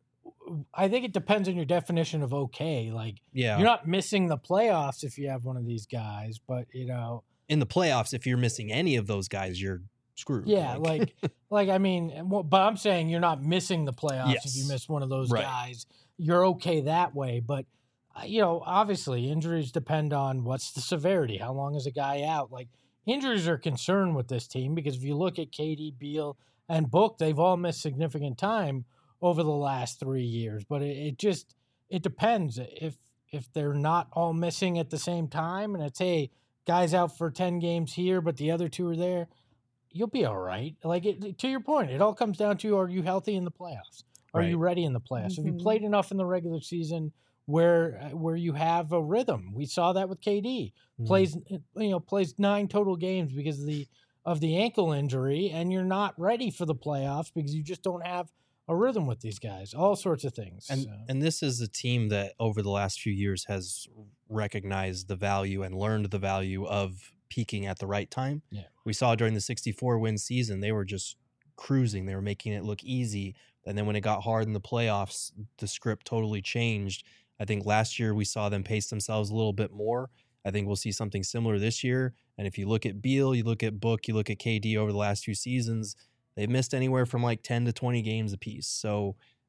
I think it depends on your definition of okay. Like, Yeah. you're not missing the playoffs if you have one of these guys, but you know, In the playoffs, if you're missing any of those guys, you're screwed. yeah, like, like I mean, well, but I'm saying you're not missing the playoffs if you Yes. miss one of those Right. guys. You're okay that way, but uh, you know, obviously, injuries depend on what's the severity. How long is a guy out? Like, injuries are a concern with this team because if you look at K D, Beal, and Book, they've all missed significant time over the last three years. But it, it just it depends if if they're not all missing at the same time, and it's hey, guys out for ten games here, but the other two are there. You'll be all right. Like it, to your point, it all comes down to: are you healthy in the playoffs? Are you Right. ready in the playoffs? Have you Mhm. played enough in the regular season where uh, where you have a rhythm? We saw that with K D. Mhm. Plays you know plays nine total games because of the of the ankle injury, and you're not ready for the playoffs because you just don't have a rhythm with these guys. All sorts of things. And so. and this is a team that over the last few years has recognized the value and learned the value of peaking at the right time. Yeah. We saw during the sixty-four win season, they were just cruising. They were making it look easy. And then when it got hard in the playoffs, the script totally changed. I think last year we saw them pace themselves a little bit more. I think we'll see something similar this year. And if you look at Beal, you look at Book, you look at K D over the last few seasons, they've missed anywhere from like ten to twenty games apiece. So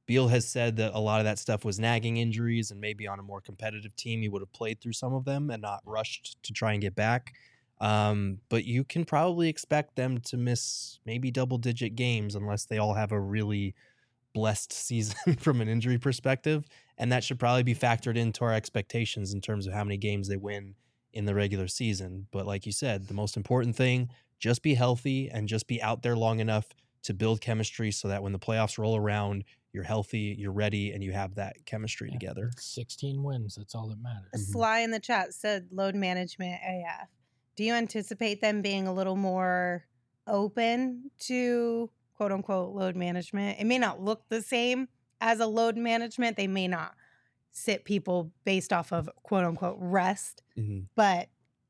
Beal has said that a lot of that stuff was nagging injuries, and maybe on a more competitive team, he would have played through some of them and not rushed to try and get back. Um, but you can probably expect them to miss maybe double-digit games unless they all have a really blessed season from an injury perspective, and that should probably be factored into our expectations in terms of how many games they win in the regular season. But like you said, the most important thing, just be healthy and just be out there long enough to build chemistry so that when the playoffs roll around, you're healthy, you're ready, and you have that chemistry Yeah. together. sixteen wins. That's all that matters. Mhm. Sly in the chat said load management A F. Do you anticipate them being a little more open to quote unquote load management? It may not look the same as a load management. They may not sit people based off of quote unquote rest, Mhm. but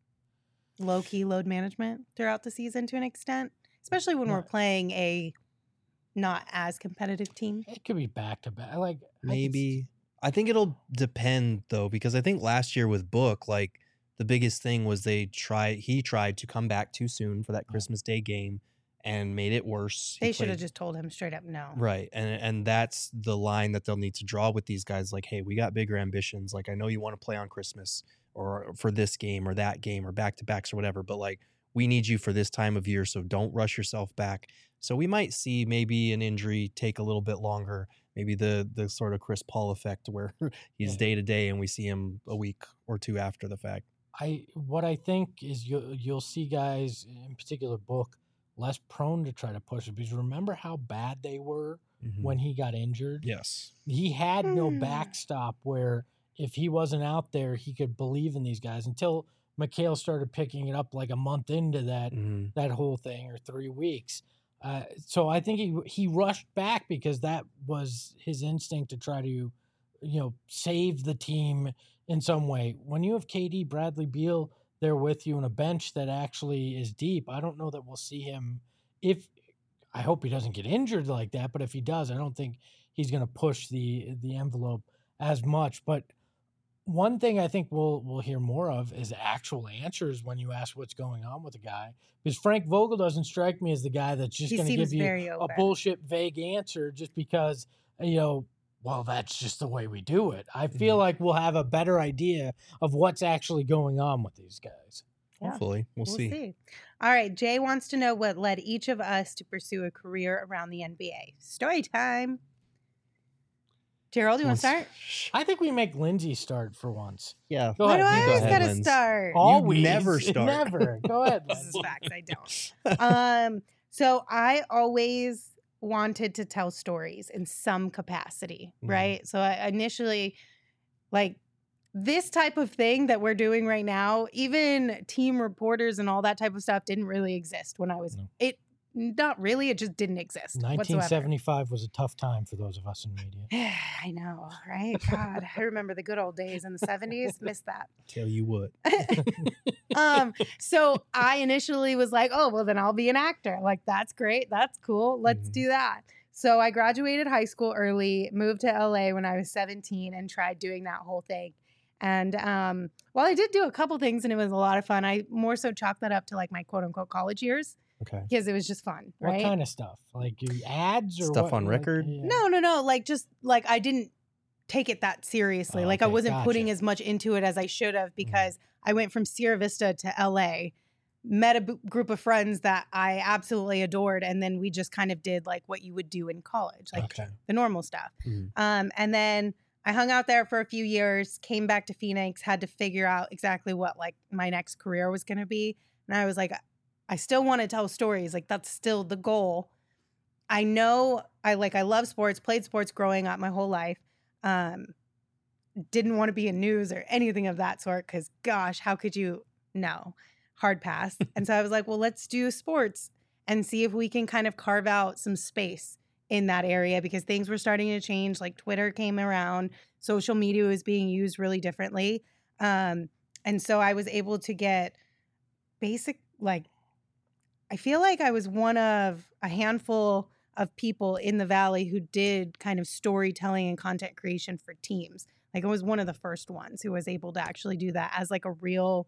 low key load management throughout the season to an extent, especially when we're Right. playing a not as competitive team. It could be back to back. Like I could s- Maybe. I think it'll depend though, because I think last year with Book, like the biggest thing was they try he tried to come back too soon for that Christmas Day game and made it worse. He They should have played- just told him straight up no. Right. And and that's the line that they'll need to draw with these guys. Like, hey, we got bigger ambitions. Like, I know you want to play on Christmas or for this game or that game or back to backs or whatever, but like we need you for this time of year. So don't rush yourself back. So we might see maybe an injury take a little bit longer. Maybe the the sort of Chris Paul effect where he's Yeah. day to day and we see him a week or two after the fact. I what I think is you'll you'll see guys in particular Book less prone to try to push it because remember how bad they were Mhm. when he got injured. Yes. He had no Hmm. backstop where if he wasn't out there, he could believe in these guys until McHale started picking it up like a month into that Mhm. that whole thing or three weeks. Uh, so I think he he rushed back because that was his instinct to try to, you know, save the team in some way. When you have K D, Bradley Beal there with you and a bench that actually is deep, I don't know that we'll see him. If I hope he doesn't get injured like that, but if he does, I don't think he's going to push the the envelope as much. But one thing I think we'll we'll hear more of is actual answers when you ask what's going on with a guy. Because Frank Vogel doesn't strike me as the guy that's just He going to seems give you very a open. bullshit vague answer just because, you know, well, that's just the way we do it. I feel Mhm. like we'll have a better idea of what's actually going on with these guys. Yeah. Hopefully. We'll, see. All right. Jay wants to know what led each of us to pursue a career around the N B A. Story time. Gerald, you want to Once- start? I think we make Lindsay start for once. Yeah. Go Why do ahead. I you go always ahead. got to Linz. start? Always. never start. Never. Go ahead. This is Linz. facts. I don't. um, so I always wanted to tell stories in some capacity, Mhm. right? So I initially, like this type of thing that we're doing right now, even team reporters and all that type of stuff didn't really exist when I was No. it. Not really. It just didn't exist. nineteen whatsoever. seventy-five was a tough time for those of us in media. I know, right? God, I remember the good old days in the seventies. Miss that. Tell you what. um, so I initially was like, oh, well, then I'll be an actor. Like, that's great. That's cool. Let's Mhm. do that. So I graduated high school early, moved to L A when I was seventeen, and tried doing that whole thing. And um, while I did do a couple things and it was a lot of fun, I more so chalked that up to like my quote unquote college years Okay. because it was just fun, right? What kind of stuff? Like you- ads or Stuff what? on Like, record? yeah. No, no, no. Like just like I didn't take it that seriously. Oh, like I okay, wasn't putting gotcha. as much into it as I should have because I went from Sierra Vista to L A, met a b- group of friends that I absolutely adored, and then we just kind of did like what you would do in college, like Okay. the normal stuff. Mhm. Um, and then I hung out there for a few years, came back to Phoenix, had to figure out exactly what like my next career was going to be, and I was like, I still want to tell stories. Like that's still the goal. I know I like I love sports, played sports growing up my whole life. Um, didn't want to be in news or anything of that sort because gosh, how could you? No, hard pass. And so I was like, well, let's do sports and see if we can kind of carve out some space in that area because things were starting to change. Like Twitter came around, social media was being used really differently. Um, and so I was able to get basic, like, I feel like I was one of a handful of people in the Valley who did kind of storytelling and content creation for teams. Like I was one of the first ones who was able to actually do that as like a real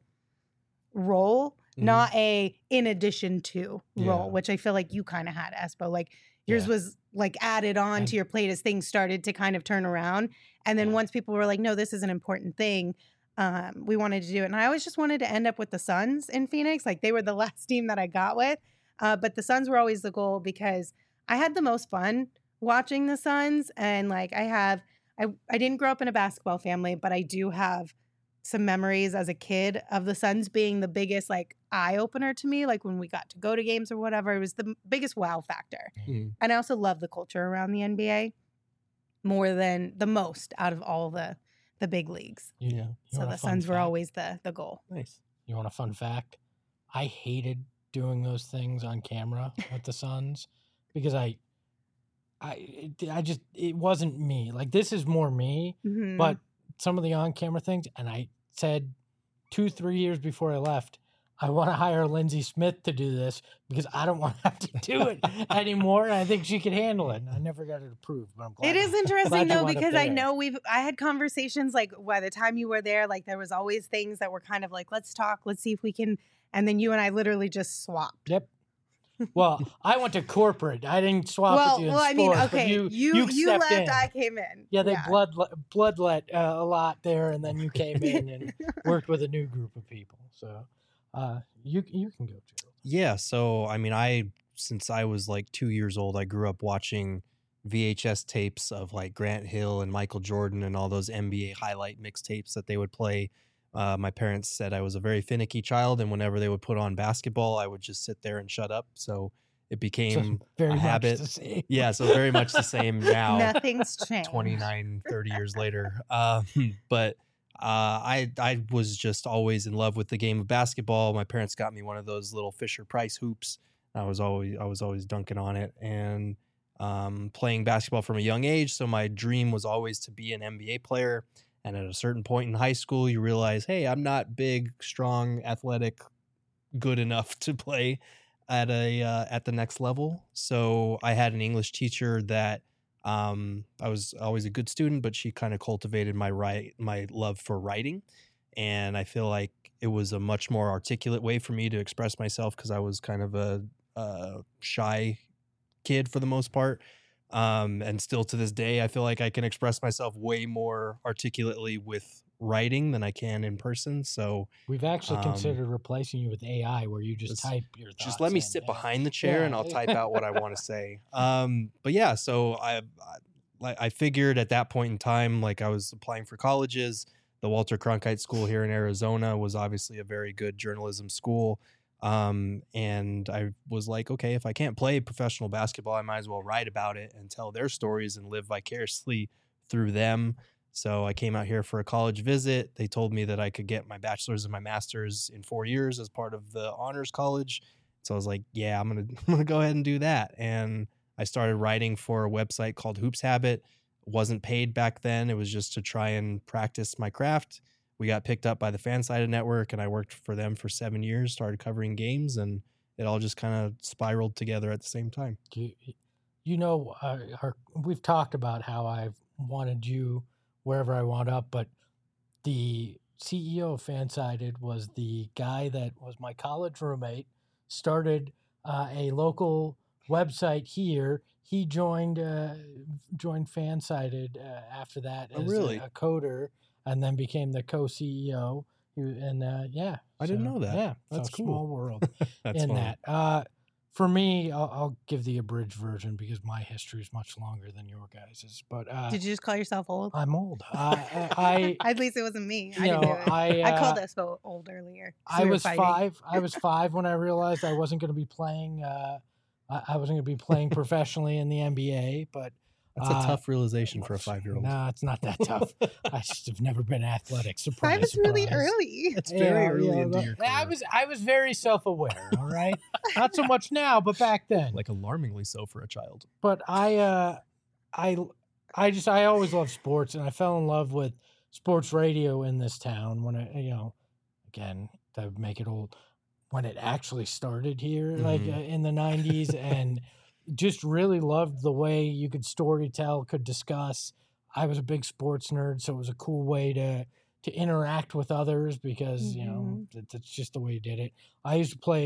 role, Mhm. not a in addition to role, Yeah. which I feel like you kind of had, Espo. Like Yours Yeah. was like added on And- to your plate as things started to kind of turn around. And then Yeah. once people were like, no, this is an important thing, um, we wanted to do it. And I always just wanted to end up with the Suns in Phoenix. Like they were the last team that I got with. Uh, but the Suns were always the goal because I had the most fun watching the Suns. And like I have, I, I didn't grow up in a basketball family, but I do have some memories as a kid of the Suns being the biggest like eye opener to me. Like when we got to go to games or whatever, it was the m- biggest wow factor. Mhm. And I also love the culture around the N B A more than the most out of all the the big leagues. You, Yeah. you So want the a fun Suns were fact? always the the goal. Nice. You want a fun fact? I hated doing those things on camera with the Suns because I, I, it- I just it wasn't me. Like this is more me, Mhm. but some of the on-camera things, and I said two, three years before I left, I want to hire Lindsay Smith to do this because I don't want to have to do it anymore. And I think she could handle it. And I never got it approved, but I'm glad. It is glad interesting you though wound up because I there. know we've I had conversations like by the time you were there, like there was always things that were kind of like, let's talk, let's see if we can, and then you and I literally just swapped. Yep. Well, I went to corporate. I didn't swap well, with you in well, I mean, sports, but okay, you you you, you, stepped left, in. I came in. Yeah, they blood bloodlet uh, a lot there, and then you came in and worked with a new group of people. So uh, you you can go, Gerald. Yeah. So, I mean, I, since I was like two years old, I grew up watching V H S tapes of like Grant Hill and Michael Jordan and all those N B A highlight mixtapes that they would play. Uh, my parents said I was a very finicky child, and whenever they would put on basketball, I would just sit there and shut up. So it So became very a much habit. the same. Yeah. So very much the same now. Nothing's changed. twenty-nine, thirty years later. Um, but uh, I I was just always in love with the game of basketball. My parents got me one of those little Fisher Price hoops. I was always I was always dunking on it and um, playing basketball from a young age. So my dream was always to be an N B A player. And at a certain point in high school, you realize, hey, I'm not big, strong, athletic, good enough to play at a uh, at the next level. So I had an English teacher that um, I was always a good student, but she kind of cultivated my right my love for writing, and I feel like it was a much more articulate way for me to express myself because I was kind of a, a shy kid for the most part. Um, and still to this day, I feel like I can express myself way more articulately with writing than I can in person. So We've actually Um, considered replacing you with A I, where you just just- type your thoughts. just let me in, sit yeah. behind the chair and Yeah. I'll type out what I want to say. Um, but yeah, so I, I like I figured at that point in time, like I was applying for colleges. The Walter Cronkite School here in Arizona was obviously a very good journalism school. Um, and I was like, okay, if I can't play professional basketball, I might as well write about it and tell their stories and live vicariously through them. So I came out here for a college visit. They told me that I could get my bachelor's and my master's in four years as part of the honors college. So I was like, yeah, I'm going to I'm gonna go ahead and do that. And I started writing for a website called Hoops Habit. Wasn't paid back then. It was just to try and practice my craft. We got picked up by the Fansided Network, and I worked for them for seven years, started covering games, and it all just kind of spiraled together at the same time. You, you know, uh, our, we've talked about how I've wanted you wherever I wound up, but the C E O of Fansided was the guy that was my college roommate, started uh, a local website here. He joined uh, joined Fansided uh, after that Oh, as really? a, a coder, and then became the co-C E O. He- And uh, yeah, I didn't so, know that. Yeah, That's so cool. Small world That's in funny. that. Uh, for me, I'll, I'll give the abridged version because my history is much longer than your guys's. But uh, Did you just call yourself old? I'm old. Uh, I, At least it wasn't me. I you didn't know, do it. I, I called uh, us o- old earlier. 'cause I we were was fighting. five. I was five when I realized I wasn't going to be playing. Uh, I, I wasn't going to be playing professionally in the N B A. But That's a uh, tough realization for a five-year-old. No, it's not that tough. I just have never been athletic. Surprise! Five is really surprise. early. It's very Yeah, early yeah, into but your I career. was I was very self aware. All right, not so much now, but back then. Like alarmingly so for a child. But I, uh, I, I just I always loved sports, and I fell in love with sports radio in this town when I, you know, again to make it old, when it actually started here, like Mhm. uh, in the nineties, and just really loved the way you could story tell, could discuss. I was a big sports nerd, so it was a cool way to to interact with others because you know Mhm. that, that's just the way you did it. I used to play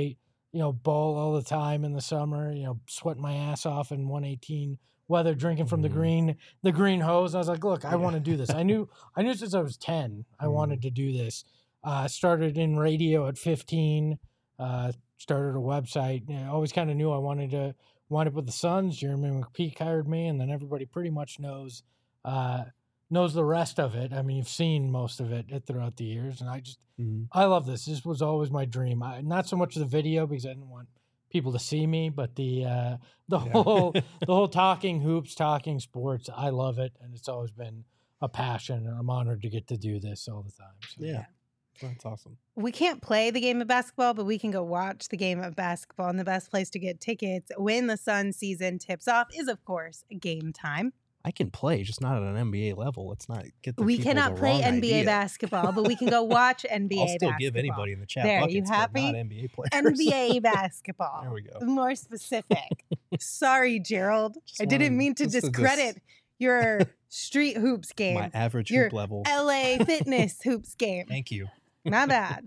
you know, ball all the time in the summer, you know, sweating my ass off in one eighteen weather, drinking from the Mhm. green, the green hose. I was like, look, I Yeah. want to do this. I knew, I knew since I was ten, I Mhm. wanted to do this. Uh, started in radio at fifteen, uh, started a website. You know, I always kind of knew I wanted to wind up with the Suns. Jeremy McPeak hired me, and then everybody pretty much knows, uh, knows the rest of it. I mean, you've seen most of it throughout the years, and I just, Mhm. I love this. This was always my dream. I, not so much the video because I didn't want people to see me, but the uh, the Yeah. whole the whole talking hoops, talking sports. I love it, and it's always been a passion. And I'm honored to get to do this all the time. So. Yeah. That's awesome. We can't play the game of basketball, but we can go watch the game of basketball. And the best place to get tickets when the Sun season tips off is, of course, Game Time. I can play, just not at an N B A level. Let's not get the We people cannot the play wrong N B A idea. basketball, but we can go watch N B A I'll still basketball. give anybody in the chat There, buckets, you but happy? not N B A players. N B A basketball. There we go. More specific. Sorry, Gerald. Just I didn't wanted- mean to just to discredit dis- your street hoops game. My average Your hoop level. L A fitness hoops game. Thank you. Not bad.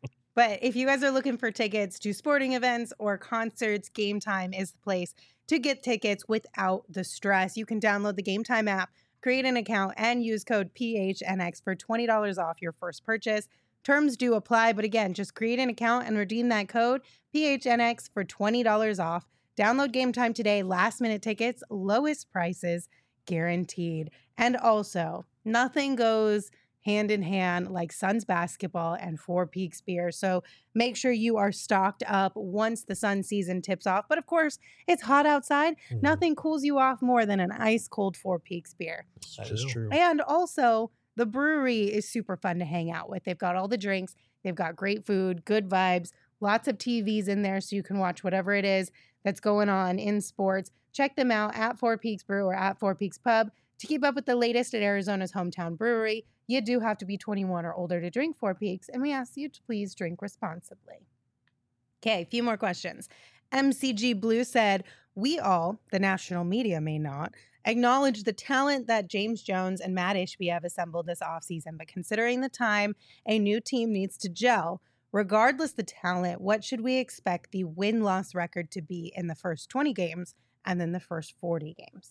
But if you guys are looking for tickets to sporting events or concerts, Game Time is the place to get tickets without the stress. You can download the Game Time app, create an account, and use code P H N X for twenty dollars off your first purchase. Terms do apply, but again, just create an account and redeem that code P H N X for twenty dollars off. Download Game Time today. Last minute tickets, lowest prices guaranteed. And also, nothing goes hand in hand like Suns basketball and Four Peaks beer. So make sure you are stocked up once the Sun season tips off. But of course, it's hot outside. Mhm. Nothing cools you off more than an ice cold Four Peaks beer. That is true. And also, the brewery is super fun to hang out with. They've got all the drinks, they've got great food, good vibes, lots of T Vs in there so you can watch whatever it is that's going on in sports. Check them out at Four Peaks Brew or at Four Peaks Pub. To keep up with the latest at Arizona's hometown brewery, you do have to be twenty-one or older to drink Four Peaks, and we ask you to please drink responsibly. Okay, a few more questions. M C G Blue said, we all, the national media may not, acknowledge the talent that James Jones and Matt Ishbia have assembled this offseason, but considering the time a new team needs to gel, regardless the talent, what should we expect the win-loss record to be in the first twenty games and then the first forty games?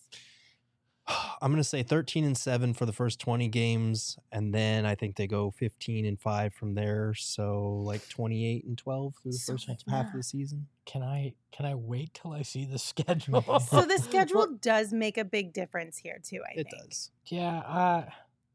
I'm going to say thirteen and seven for the first twenty games, and then I think they go fifteen and five from there. So like twenty-eight and twelve through the So first like half of that. the season. Can I can I wait till I see the schedule? So the schedule does make a big difference here too, I It think. does. Yeah, uh,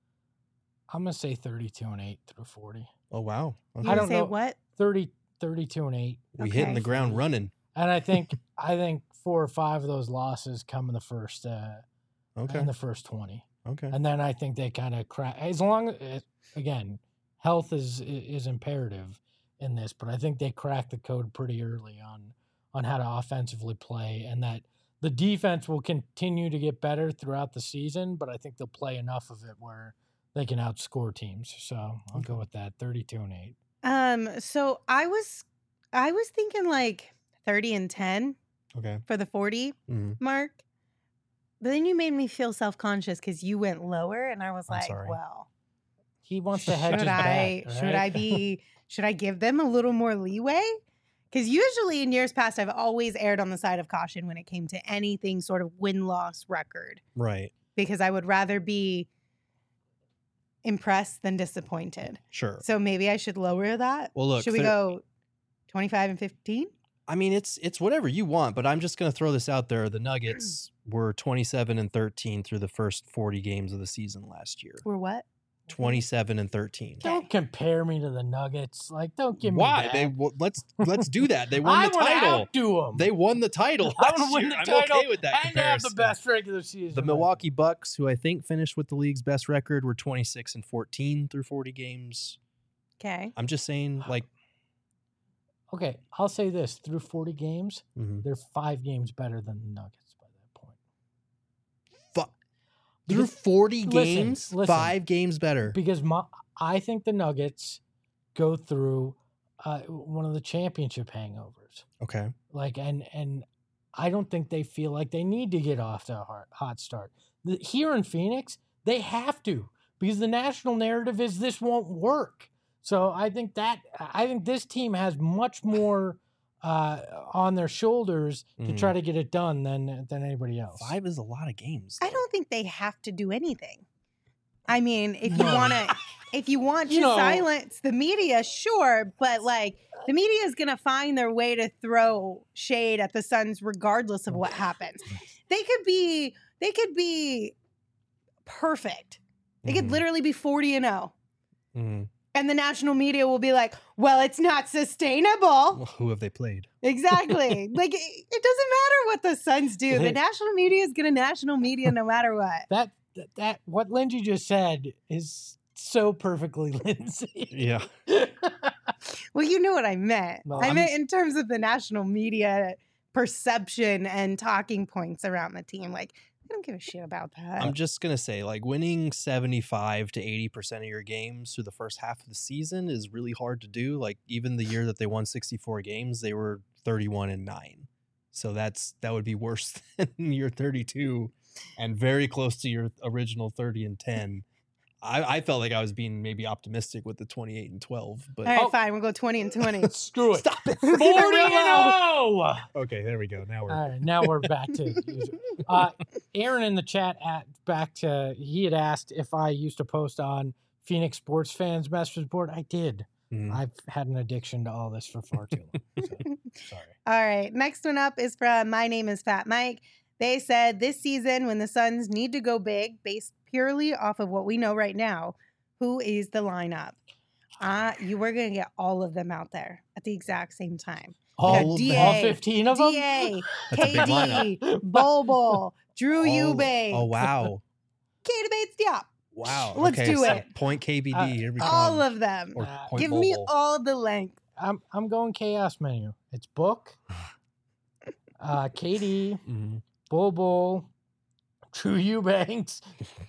I'm gonna say thirty-two and eight through forty. Oh wow. You Okay. I would don't say know. what? thirty, thirty-two and eight. We hitting the Okay. ground running. And I think I think four or five of those losses come in the first uh, Okay. in the first twenty, Okay. and then I think they kind of crack. As long as again, health is is imperative in this, but I think they crack the code pretty early on on how to offensively play, and that the defense will continue to get better throughout the season. But I think they'll play enough of it where they can outscore teams. So I'll go with that, thirty-two and eight. Um, so I was I was thinking like thirty and ten Okay. for the forty Mhm. mark. But then you made me feel self-conscious because you went lower and I was I'm like, sorry. well, He wants to hedge should his I bet. should right? I be should I give them a little more leeway? Because usually in years past, I've always erred on the side of caution when it came to anything sort of win-loss record. Right. Because I would rather be impressed than disappointed. Sure. So maybe I should lower that. Well, look, should we thir- go twenty-five and fifteen? I mean, it's it's whatever you want, but I'm just going to throw this out there. The Nuggets were twenty-seven and thirteen through the first forty games of the season last year. Or what? twenty-seven and thirteen. Don't compare me to the Nuggets. Like, don't give me Why? that. They w- let's let's do that. They won I the would title. outdo them. They won the title I last would win year. the I'm title okay with that and have the comparison. best regular season. The Milwaukee Bucks, who I think finished with the league's best record, were twenty-six and fourteen through forty games. Okay. I'm just saying, like, Okay, I'll say this: through forty games, mhm. they're five games better than the Nuggets by that point. Fuck. Through Because- forty listen, games, listen. five games better. Because my, I think the Nuggets go through uh, one of the championship hangovers. Okay. Like, and and I don't think they feel like they need to get off to a hot, hot start. The, here in Phoenix, they have to because the national narrative is this won't work. So I think that I think this team has much more uh, on their shoulders to Mhm. try to get it done than than anybody else. Five is a lot of games. I though. don't think they have to do anything. I mean, if you No. want to, if you want to You know- silence the media, sure, but like the media is gonna find their way to throw shade at the Suns regardless of what happens. They could be, they could be perfect. They could Mhm. literally be forty and oh. Mhm. And the national media will be like, well, it's not sustainable. Well, who have they played? Exactly. Like, it, it doesn't matter what the Suns do. The national media is going to national media no matter what. That, that that what Lindsay just said is so perfectly Lindsay. Yeah. Well, you knew what I meant. Well, I I'm- meant in terms of the national media perception and talking points around the team. Like, I don't give a shit about that. I'm just gonna say, like, winning seventy-five to eighty percent of your games through the first half of the season is really hard to do. Like, even the year that they won sixty-four games, they were thirty-one and nine. So that's that would be worse than your thirty-two, and very close to your original thirty and ten. I, I felt like I was being maybe optimistic with the twenty-eight and twelve, but All right, Oh. fine. We'll go twenty and twenty. Screw it. stop it. We'll forty keep it and real. oh! Okay, there we go. Now we're All right, now we're back to usual. Uh, Aaron in the chat at back to he had asked if I used to post on Phoenix Sports Fans message board. I did. Mhm. I've had an addiction to all this for far too long. So, sorry. All right. Next one up is from My Name is Fat Mike. They said this season, when the Suns need to go big, based purely off of what we know right now, who is the lineup? Uh, you were going to get all of them out there at the exact same time. All, got of D them? A, all fifteen of them? D A, That's a big K D, Bobo, Drew oh, Eubanks, oh wow, Kata Bates Diop. wow. Let's okay, do so it. Point K B D. Uh, Here we come. All of them. Or Uh, point Give me Bobo. all the length. I'm I'm going chaos menu. It's Book, uh, K D, Mhm. Bobo, Drew Eubanks,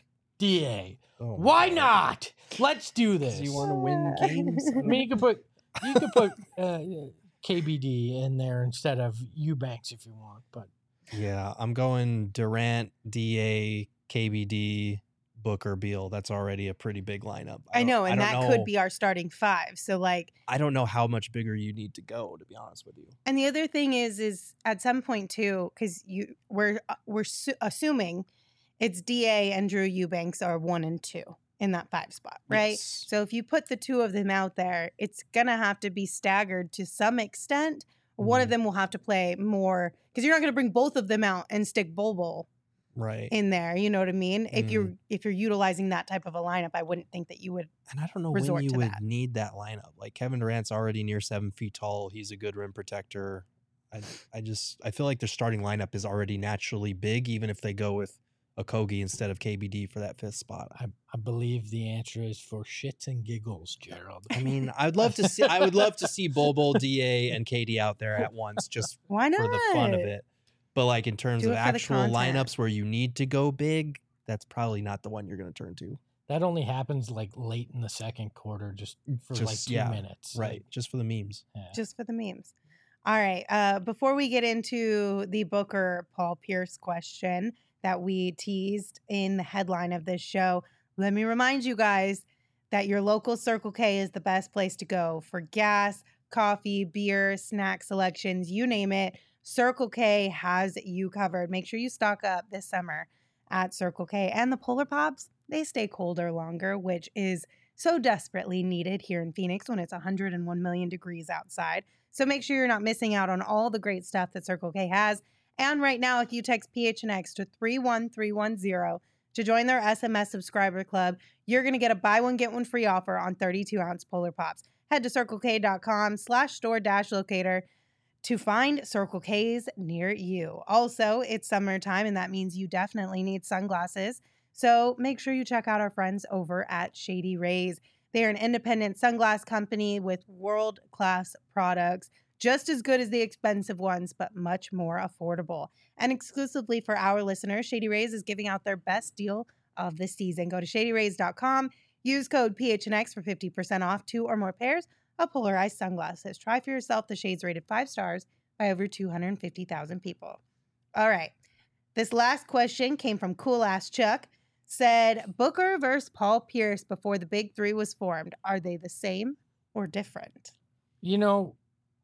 D A. Oh, Why God. not? Let's do this. Do you want to win games? I mean, you could put you could put uh, K B D in there instead of Eubanks if you want, but Yeah, I'm going Durant, D A, K B D, Booker, Beal. That's already a pretty big lineup. I don't- know, and don't that know- could be our starting five. So, like, I don't know how much bigger you need to go, to be honest with you. and the other thing is, is at some point too, because you we're uh, we're su- assuming it's D A and Drew Eubanks are one and two in that five spot, right? Yes. So if you put the two of them out there, it's gonna have to be staggered to some extent. One of Mhm. them will have to play more because you're not gonna bring both of them out and stick Bobo Right. in there. You know what I mean? If Mm. you're if you're utilizing that type of a lineup, I wouldn't think that you would. And I don't know resort when you to would that. need that lineup. Like Kevin Durant's already near seven feet tall. He's a good rim protector. I, I just I feel like their starting lineup is already naturally big, even if they go with Okogie instead of K B D for that fifth spot. I, I believe the answer is for shits and giggles, Gerald. I mean, I'd love to see I would love to see Bobo, D A, and K D out there at once just Why not? for the fun of it. But like in terms Do of it for the actual content. lineups where you need to go big, that's probably not the one you're going to turn to. That only happens like late in the second quarter, just for like Just- two yeah, minutes. Right. Just for the memes. Like, yeah. Just for the memes. All right. Uh, before we get into the Booker Paul Pierce question that we teased in the headline of this show, let me remind you guys that your local Circle K is the best place to go for gas, coffee, beer, snack selections, you name it. Circle K has you covered. Make sure you stock up this summer at Circle K. And the Polar Pops, they stay colder longer, which is so desperately needed here in Phoenix when it's one hundred one million degrees outside. So make sure you're not missing out on all the great stuff that Circle K has. And right now, if you text P H N X to three one three one zero to join their S M S subscriber club, you're going to get a buy one, get one free offer on thirty-two ounce Polar Pops. Head to circlek.com slash store dash locator to find Circle K's near you. Also, it's summertime, and that means you definitely need sunglasses. So make sure you check out our friends over at Shady Rays. They are an independent sunglass company with world-class products, just as good as the expensive ones, but much more affordable. And exclusively for our listeners, Shady Rays is giving out their best deal of the season. Go to shady rays dot com, use code P H N X for fifty percent off two or more pairs of polarized sunglasses. Try for yourself the shades rated five stars by over two hundred fifty thousand people. All right. This last question came from Cool Ass Chuck. Said, Booker versus Paul Pierce before the Big Three was formed. Are they the same or different? You know,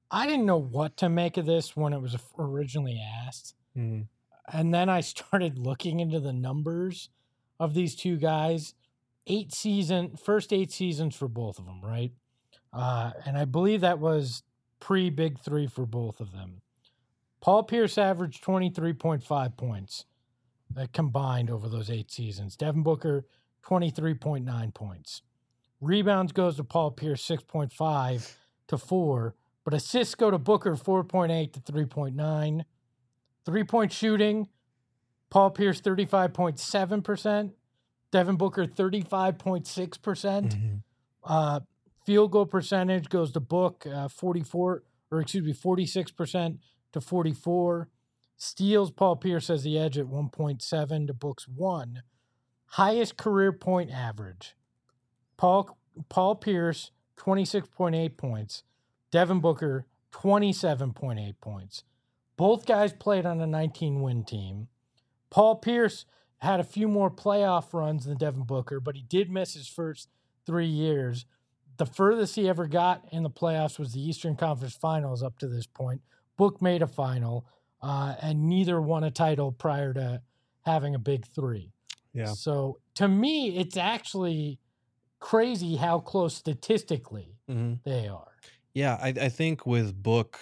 I didn't know what to make of this when it was originally asked. Mm. And then I started looking into the numbers of these two guys. Eight season, first eight seasons for both of them, right? Uh, and I believe that was pre-Big Three for both of them. Paul Pierce averaged twenty-three point five points uh, combined over those eight seasons. Devin Booker, twenty-three point nine points. Rebounds goes to Paul Pierce, six point five to four. But assists go to Booker, four point eight to three point nine. Three-point shooting, Paul Pierce, thirty-five point seven percent. Devin Booker, thirty-five point six percent. Mm-hmm. Uh, field goal percentage goes to Book, uh, forty-four, or excuse me, forty-six percent to forty-four. Steals, Paul Pierce has the edge at one point seven to Book's one. Highest career point average. Paul Paul Pierce, twenty-six point eight points. Devin Booker, twenty-seven point eight points. Both guys played on a nineteen-win team. Paul Pierce had a few more playoff runs than Devin Booker, but he did miss his first three years. The furthest he ever got in the playoffs was the Eastern Conference Finals up to this point. Book made a final, uh, and neither won a title prior to having a big three. Yeah. So to me, it's actually crazy how close statistically Mm-hmm. they are. Yeah, I, I think with Book,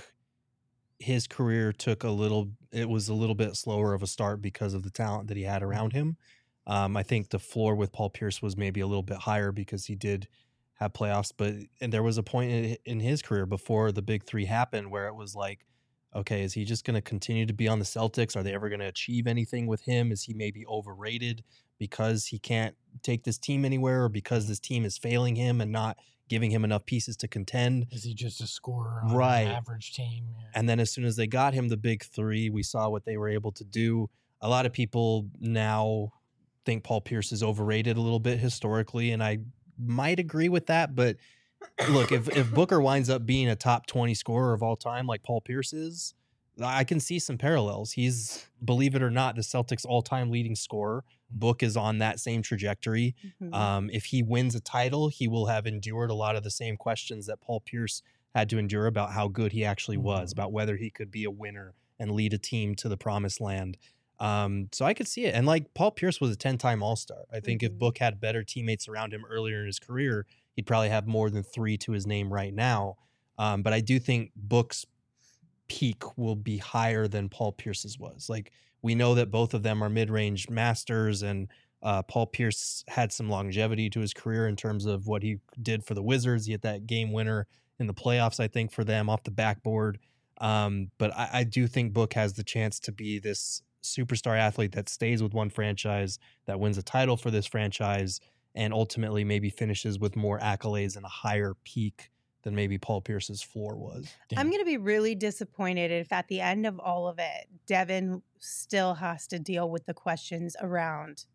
his career took a little, it was a little bit slower of a start because of the talent that he had around him. Um, I think the floor with Paul Pierce was maybe a little bit higher because he did have playoffs, but and there was a point in, in his career before the big three happened where it was like, okay, is he just going to continue to be on the Celtics? Are they ever going to achieve anything with him? Is he maybe overrated because he can't take this team anywhere, or because this team is failing him and not giving him enough pieces to contend? Is he just a scorer on Right. an average team? Yeah. And then as soon as they got him the big three, we saw what they were able to do. A lot of people now think Paul Pierce is overrated a little bit historically, and I might agree with that. But look, if, if Booker winds up being a top twenty scorer of all time like Paul Pierce is, I can see some parallels. He's, believe it or not, the Celtics' all-time leading scorer. Book is on that same trajectory. Mhm. Um, if he wins a title, he will have endured a lot of the same questions that Paul Pierce had to endure about how good he actually was, about whether he could be a winner and lead a team to the promised land. Um, so I could see it. And like Paul Pierce was a ten-time All-Star. I think if Mhm. Book had better teammates around him earlier in his career, he'd probably have more than three to his name right now. Um, but I do think Book's peak will be higher than Paul Pierce's was. Like, we know that both of them are mid-range masters, and uh, Paul Pierce had some longevity to his career in terms of what he did for the Wizards. He hit that game winner in the playoffs, I think, for them off the backboard. Um, but I, I do think Book has the chance to be this superstar athlete that stays with one franchise, that wins a title for this franchise, and ultimately maybe finishes with more accolades and a higher peak than maybe Paul Pierce's floor was. I'm going to be really disappointed if at the end of all of it, Devin still has to deal with the questions around,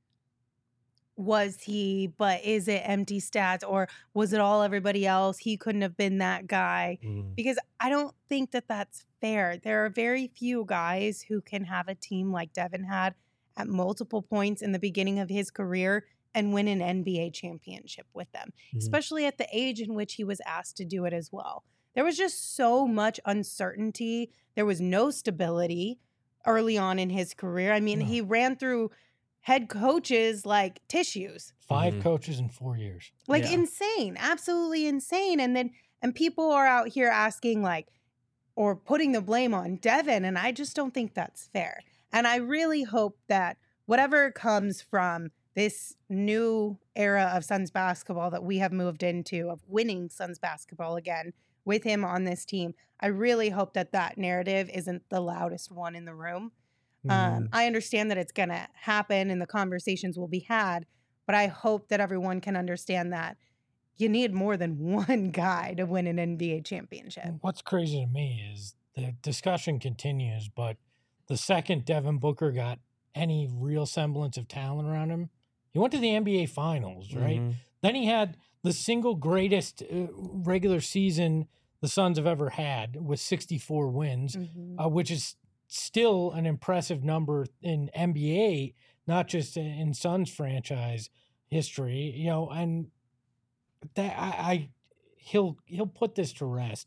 was he, but is it empty stats, or was it all everybody else? He couldn't have been that guy. Mm. Because I don't think that that's fair. There are very few guys who can have a team like Devin had at multiple points in the beginning of his career and win an N B A championship with them, Mhm. especially at the age in which he was asked to do it as well. There was just so much uncertainty. There was no stability early on in his career. I mean, No. he ran through head coaches like tissues. Five Mhm. coaches in four years. Like Yeah. insane, absolutely insane. And then and people are out here asking like or putting the blame on Devin, and I just don't think that's fair. And I really hope that whatever comes from this new era of Suns basketball that we have moved into, of winning Suns basketball again with him on this team, I really hope that that narrative isn't the loudest one in the room. Mm. Um, I understand that it's going to happen and the conversations will be had, but I hope that everyone can understand that you need more than one guy to win an N B A championship. What's crazy to me is the discussion continues, but the second Devin Booker got any real semblance of talent around him, he went to the N B A Finals, right? Mhm. Then he had the single greatest uh, regular season the Suns have ever had with sixty-four wins, Mhm. uh, which is still an impressive number in N B A, not just in, in Suns franchise history. You know, and that I, I he'll he'll put this to rest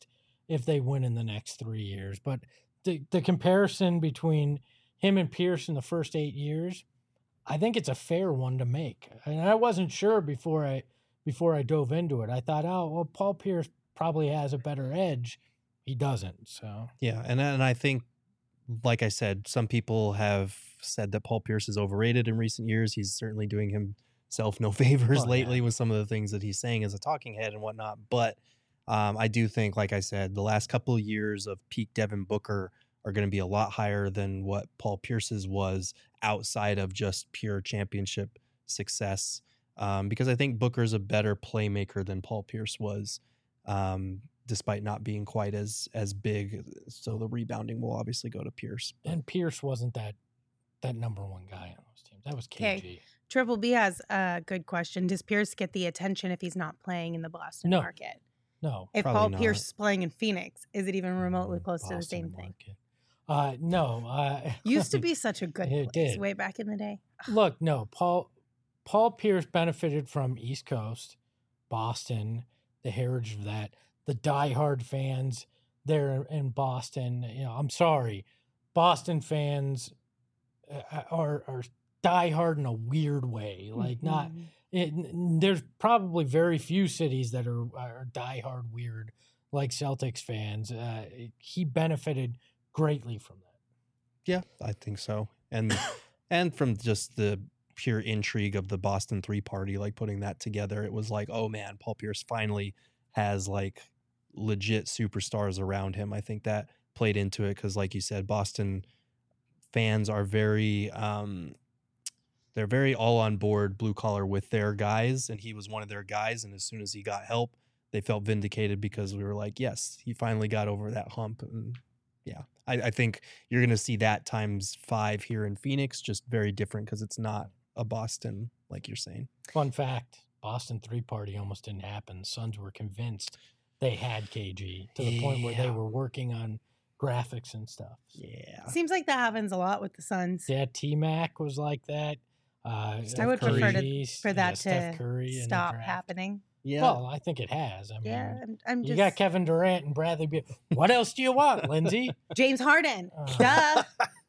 if they win in the next three years. But the the comparison between him and Pierce in the first eight years, I think it's a fair one to make. And I wasn't sure before I before I dove into it. I thought, oh, well, Paul Pierce probably has a better edge. He doesn't. So Yeah, and and I think, like I said, some people have said that Paul Pierce is overrated in recent years. He's certainly doing himself no favors Oh, lately yeah. with some of the things that he's saying as a talking head and whatnot. But um, I do think, like I said, the last couple of years of peak Devin Booker are going to be a lot higher than what Paul Pierce's was outside of just pure championship success. Um, because I think Booker's a better playmaker than Paul Pierce was. Um, despite not being quite as as big. So the rebounding will obviously go to Pierce. and Pierce wasn't that that number one guy on those teams. That was K Okay. G. Triple B has a good question. Does Pierce get the attention if he's not playing in the Boston No. market? No, If Probably Paul not. Pierce is playing in Phoenix, is it even remotely Mm, close to the Boston same thing? market. Uh, no, uh, Used to be such a good It place did. way back in the day. Look, no, Paul Paul Pierce benefited from East Coast, Boston, the heritage of that, the diehard fans there in Boston. You know, I'm sorry, Boston fans uh, are are diehard in a weird way. Like not, Mhm. it, n- there's probably very few cities that are are diehard weird like Celtics fans. Uh, he benefited greatly from that. Yeah, I think so. And and from just the pure intrigue of the Boston three party, like putting that together, it was like, oh man, Paul Pierce finally has like legit superstars around him. I think that played into it because, like you said, Boston fans are very um they're very all on board blue collar with their guys, and he was one of their guys. And as soon as he got help, they felt vindicated because we were like, yes, he finally got over that hump. And yeah, I, I think you're going to see that times five here in Phoenix, just very different because it's not a Boston, like you're saying. Fun fact: Boston three party almost didn't happen. Suns were convinced they had K G to the point where they Yeah. were working on graphics and stuff. Yeah. Seems like that happens a lot with the Suns. Yeah, T Mac was like that. Uh, Steph I would prefer to, Curry, for yeah, that Steph to Curry in the stop draft. happening. Yeah. Well, I think it has. I mean, Yeah, I'm, I'm you just got Kevin Durant and Bradley Beal. What else do you want, Lindsay? James Harden. Uh, Duh.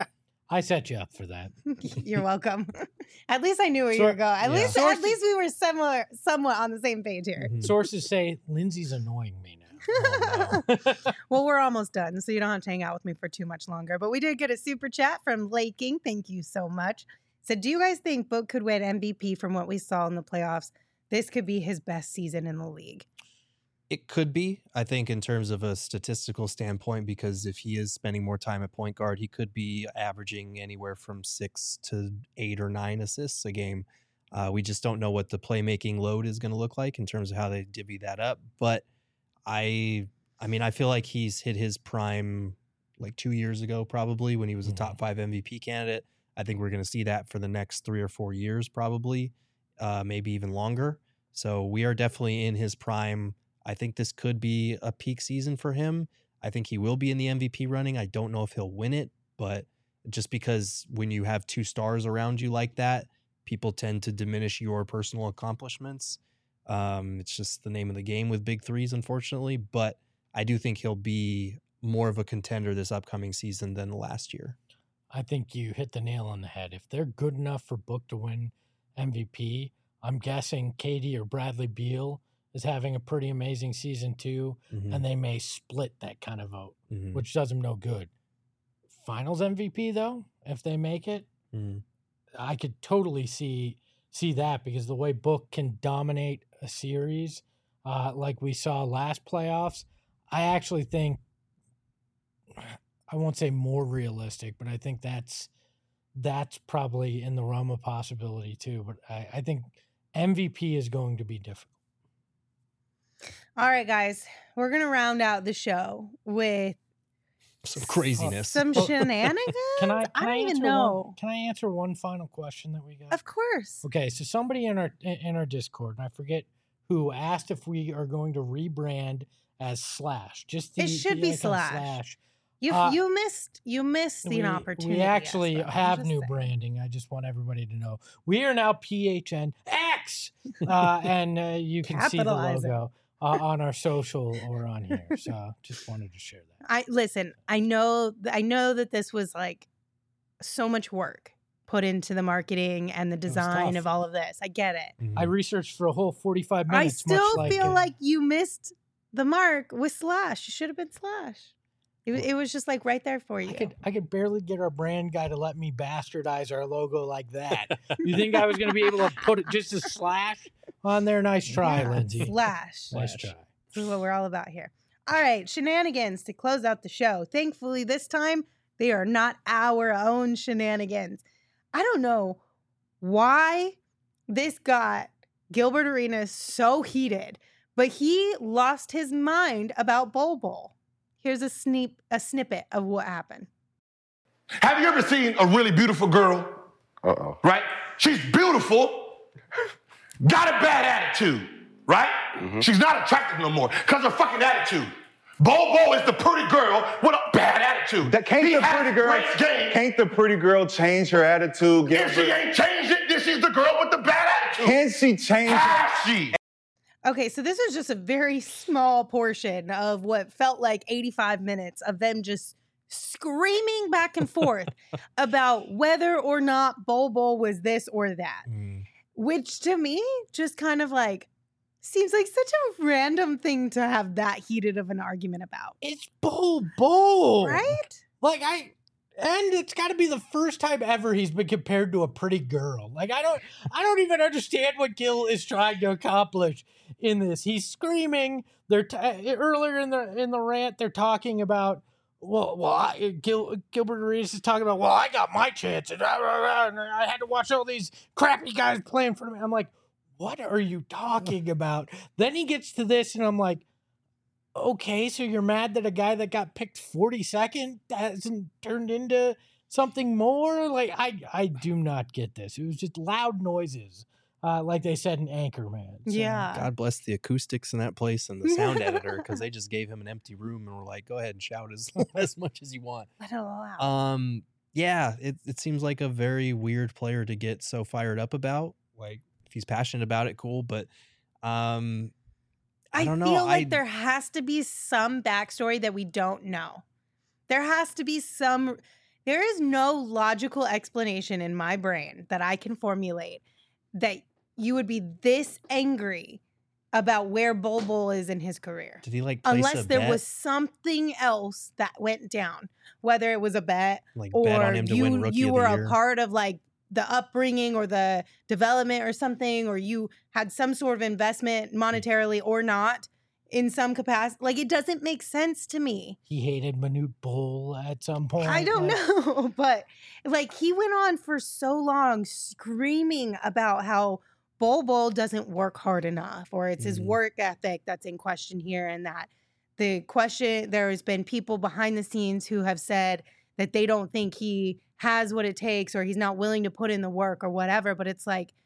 I set you up for that. You're welcome. At least I knew where you Sor- were going. At yeah. least, Sources- at least we were similar, somewhat on the same page here. Mhm. Sources say Lindsay's annoying me now. Oh, no. Well, we're almost done, so you don't have to hang out with me for too much longer. But we did get a super chat from Laking. Thank you so much. Said, do you guys think Book could win M V P from what we saw in the playoffs? This could be his best season in the league. It could be, I think, in terms of a statistical standpoint, because if he is spending more time at point guard, he could be averaging anywhere from six to eight or nine assists a game. Uh, we just don't know what the playmaking load is going to look like in terms of how they divvy that up. But I, I mean, I feel like he's hit his prime like two years ago, probably when he was a Mhm. top five M V P candidate. I think we're going to see that for the next three or four years, probably, uh, maybe even longer. So we are definitely in his prime. I think this could be a peak season for him. I think he will be in the M V P running. I don't know if he'll win it, but just because when you have two stars around you like that, people tend to diminish your personal accomplishments. Um, it's just the name of the game with big threes, unfortunately. But I do think he'll be more of a contender this upcoming season than last year. I think you hit the nail on the head. If they're good enough for Book to win M V P, I'm guessing Katie or Bradley Beal is having a pretty amazing season too, Mhm. and they may split that kind of vote, Mhm. which does them no good. Finals M V P though, if they make it, Mhm. I could totally see see that because the way Book can dominate a series, uh, like we saw last playoffs, I actually think I won't say more realistic, but I think that's that's probably in the realm of possibility too. But I, I think M V P is going to be difficult. All right, guys, we're gonna round out the show with Some craziness. some Oh, shenanigans. Can I? Can I don't I even answer know. One, can I answer one final question that we got? Of course. Okay, so somebody in our in our Discord, and I forget who, asked if we are going to rebrand as Slash. Just the, It should the be icon Slash. Slash. You Uh, you missed you missed the we, opportunity. we actually Espo. I'm have just new saying. branding. I just want everybody to know we are now P H N X, uh, and uh, you can see the Capitalize it. logo. uh, on our social or on here. So just wanted to share that. I listen, I know I know that this was like so much work put into the marketing and the design tough. of all of this. I get it. Mhm. I researched for a whole forty-five I minutes. still much feel uh, like you missed the mark with Slash. You should have been Slash. It, wa- it was just like right there for you. I could I could barely get our brand guy to let me bastardize our logo like that. You think I was going to be able to put it just a slash on there? Nice try, Yeah, Lindsay. Slash. Nice try. This is what we're all about here. All right, shenanigans to close out the show. Thankfully, this time they are not our own shenanigans. I don't know why this got Gilbert Arenas so heated, but he lost his mind about Bol Bol. Here's a sneak, a snippet of what happened. Have you ever seen a really beautiful girl? Uh-oh. Right? She's beautiful, got a bad attitude, right? Mm-hmm. She's not attractive no more because of her fucking attitude. Bol Bol is the pretty girl with a bad attitude. That can't He the has pretty girl great game. can't the pretty girl change her attitude? Get If she ain't changed it, this is the girl with the bad attitude. Can she change her? Has she? Okay, so this was just a very small portion of what felt like eighty-five minutes of them just screaming back and forth about whether or not Bol Bol was this or that, Mm. which to me just kind of like seems like such a random thing to have that heated of an argument about, It's Bol Bol. right? Like I and it's got to be the first time ever he's been compared to a pretty girl. Like I don't I don't even understand what Gil is trying to accomplish in this. He's screaming. They're t- earlier in the in the rant they're talking about well, well, I, Gil, Gilbert Arenas is talking about, well, I got my chance, and, rah, rah, rah, and I had to watch all these crappy guys play in front of me. I'm like, what are you talking about? Then he gets to this, and I'm like, okay, so you're mad that a guy that got picked forty-second hasn't turned into something more? Like, I I do not get this. It was just loud noises, uh, like they said in Anchorman. So, Yeah. God bless the acoustics in that place and the sound editor because they just gave him an empty room and were like, "Go ahead and shout as as much as you want." Let it all out. Um, yeah, it it seems like a very weird player to get so fired up about. Like, if he's passionate about it, cool. But, um, I, I don't know. feel like I, there has to be some backstory that we don't know. There has to be some. There is no logical explanation in my brain that I can formulate that you would be this angry about where Bol Bol is in his career. did he like place Unless a there bet? was something else that went down, whether it was a bet like or bet on him to you, win Rookie you of were the a Year? part of like the upbringing or the development or something, or you had some sort of investment monetarily or not in some capacity. Like, it doesn't make sense to me. he hated Manute Bol at some point. I don't like, know, but like he went on for so long screaming about how Bol Bol doesn't work hard enough, or it's his Mhm. work ethic that's in question here, and that the question there has been people behind the scenes who have said that they don't think he has what it takes, or he's not willing to put in the work or whatever. But it's like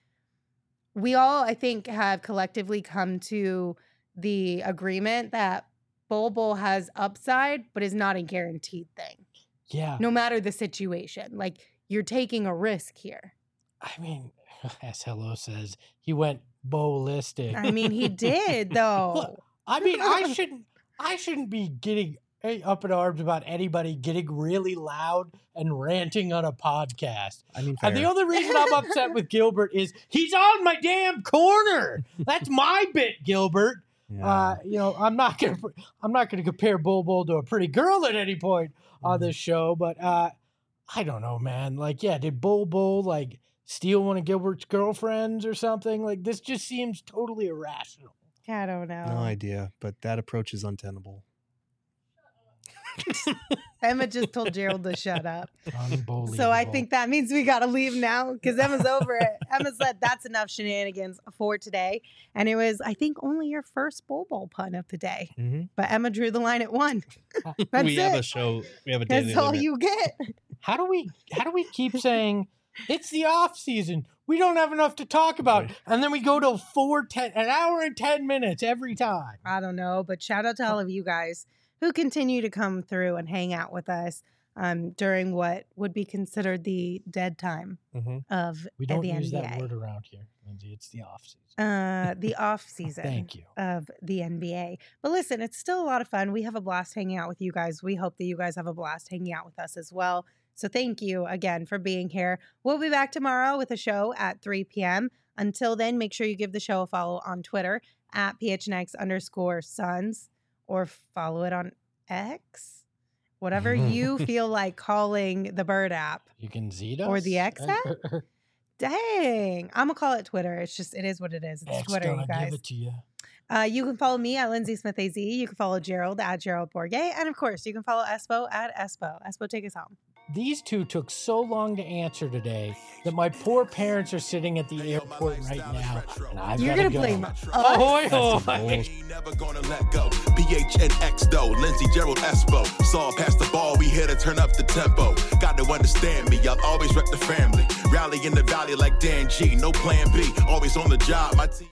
we all, I think, have collectively come to the agreement that Bol Bol has upside, but is not a guaranteed thing, Yeah. no matter the situation. Like, you're taking a risk here. I mean, as Hello says, he went ballistic. I mean, he did though. I mean, I shouldn't. I shouldn't be getting eh, up in arms about anybody getting really loud and ranting on a podcast. I mean, And the fair. only reason I'm upset with Gilbert is he's on my damn corner. That's my bit, Gilbert. Yeah. Uh, you know, I'm not gonna. I'm not gonna compare Bol Bol to a pretty girl at any point on this show, but uh, I don't know, man. Like, yeah, did Bol Bol like steal one of Gilbert's girlfriends or something? Like, this just seems totally irrational. I don't know. No idea, but that approach is untenable. Emma just told Gerald to shut up. So I Unbelievable. think that means we got to leave now because Emma's over it. Emma said that's enough shenanigans for today. And it was, I think, only your first Bol Bol pun of the day. Mm-hmm. But Emma drew the line at one. That's we have it. a show. We have a daily That's all limit. you get. How do we? How do we keep saying it's the off season? We don't have enough to talk about, and then we go to four, ten, an hour and ten minutes every time. I don't know, but shout out to all of you guys who continue to come through and hang out with us. um, during what would be considered the dead time Mhm. of We uh, don't the use N B that A. word around here, Lindsay. It's the off season. Uh, the off season Thank you. of the N B A. But listen, it's still a lot of fun. We have a blast hanging out with you guys. We hope that you guys have a blast hanging out with us as well. So thank you again for being here. We'll be back tomorrow with a show at three p.m. Until then, make sure you give the show a follow on Twitter at P H N X underscore Suns or follow it on X. Whatever you feel like calling the Bird app. You can Z us Or the X app? Dang. I'm going to call it Twitter. It's just, it is what it is. It's X Twitter, gonna you guys. give it to you. Uh, you can follow me at Lindsay Smith A Z. You can follow Gerald at Gerald Bourget. And of course, you can follow Espo at Espo. Espo, take us home. These two took so long to answer today that my poor parents are sitting at the airport right now. And I've You're gotta going to go. blame Ahoy, us? ahoy. Ain't never gonna let go. P H N X though, Lindsay, Gerald, Espo. Saw past the ball, we here to turn up the tempo. Got to understand me, I'll always rep the family. Rally in the valley like Dan G, no plan B. Always on the job, my team.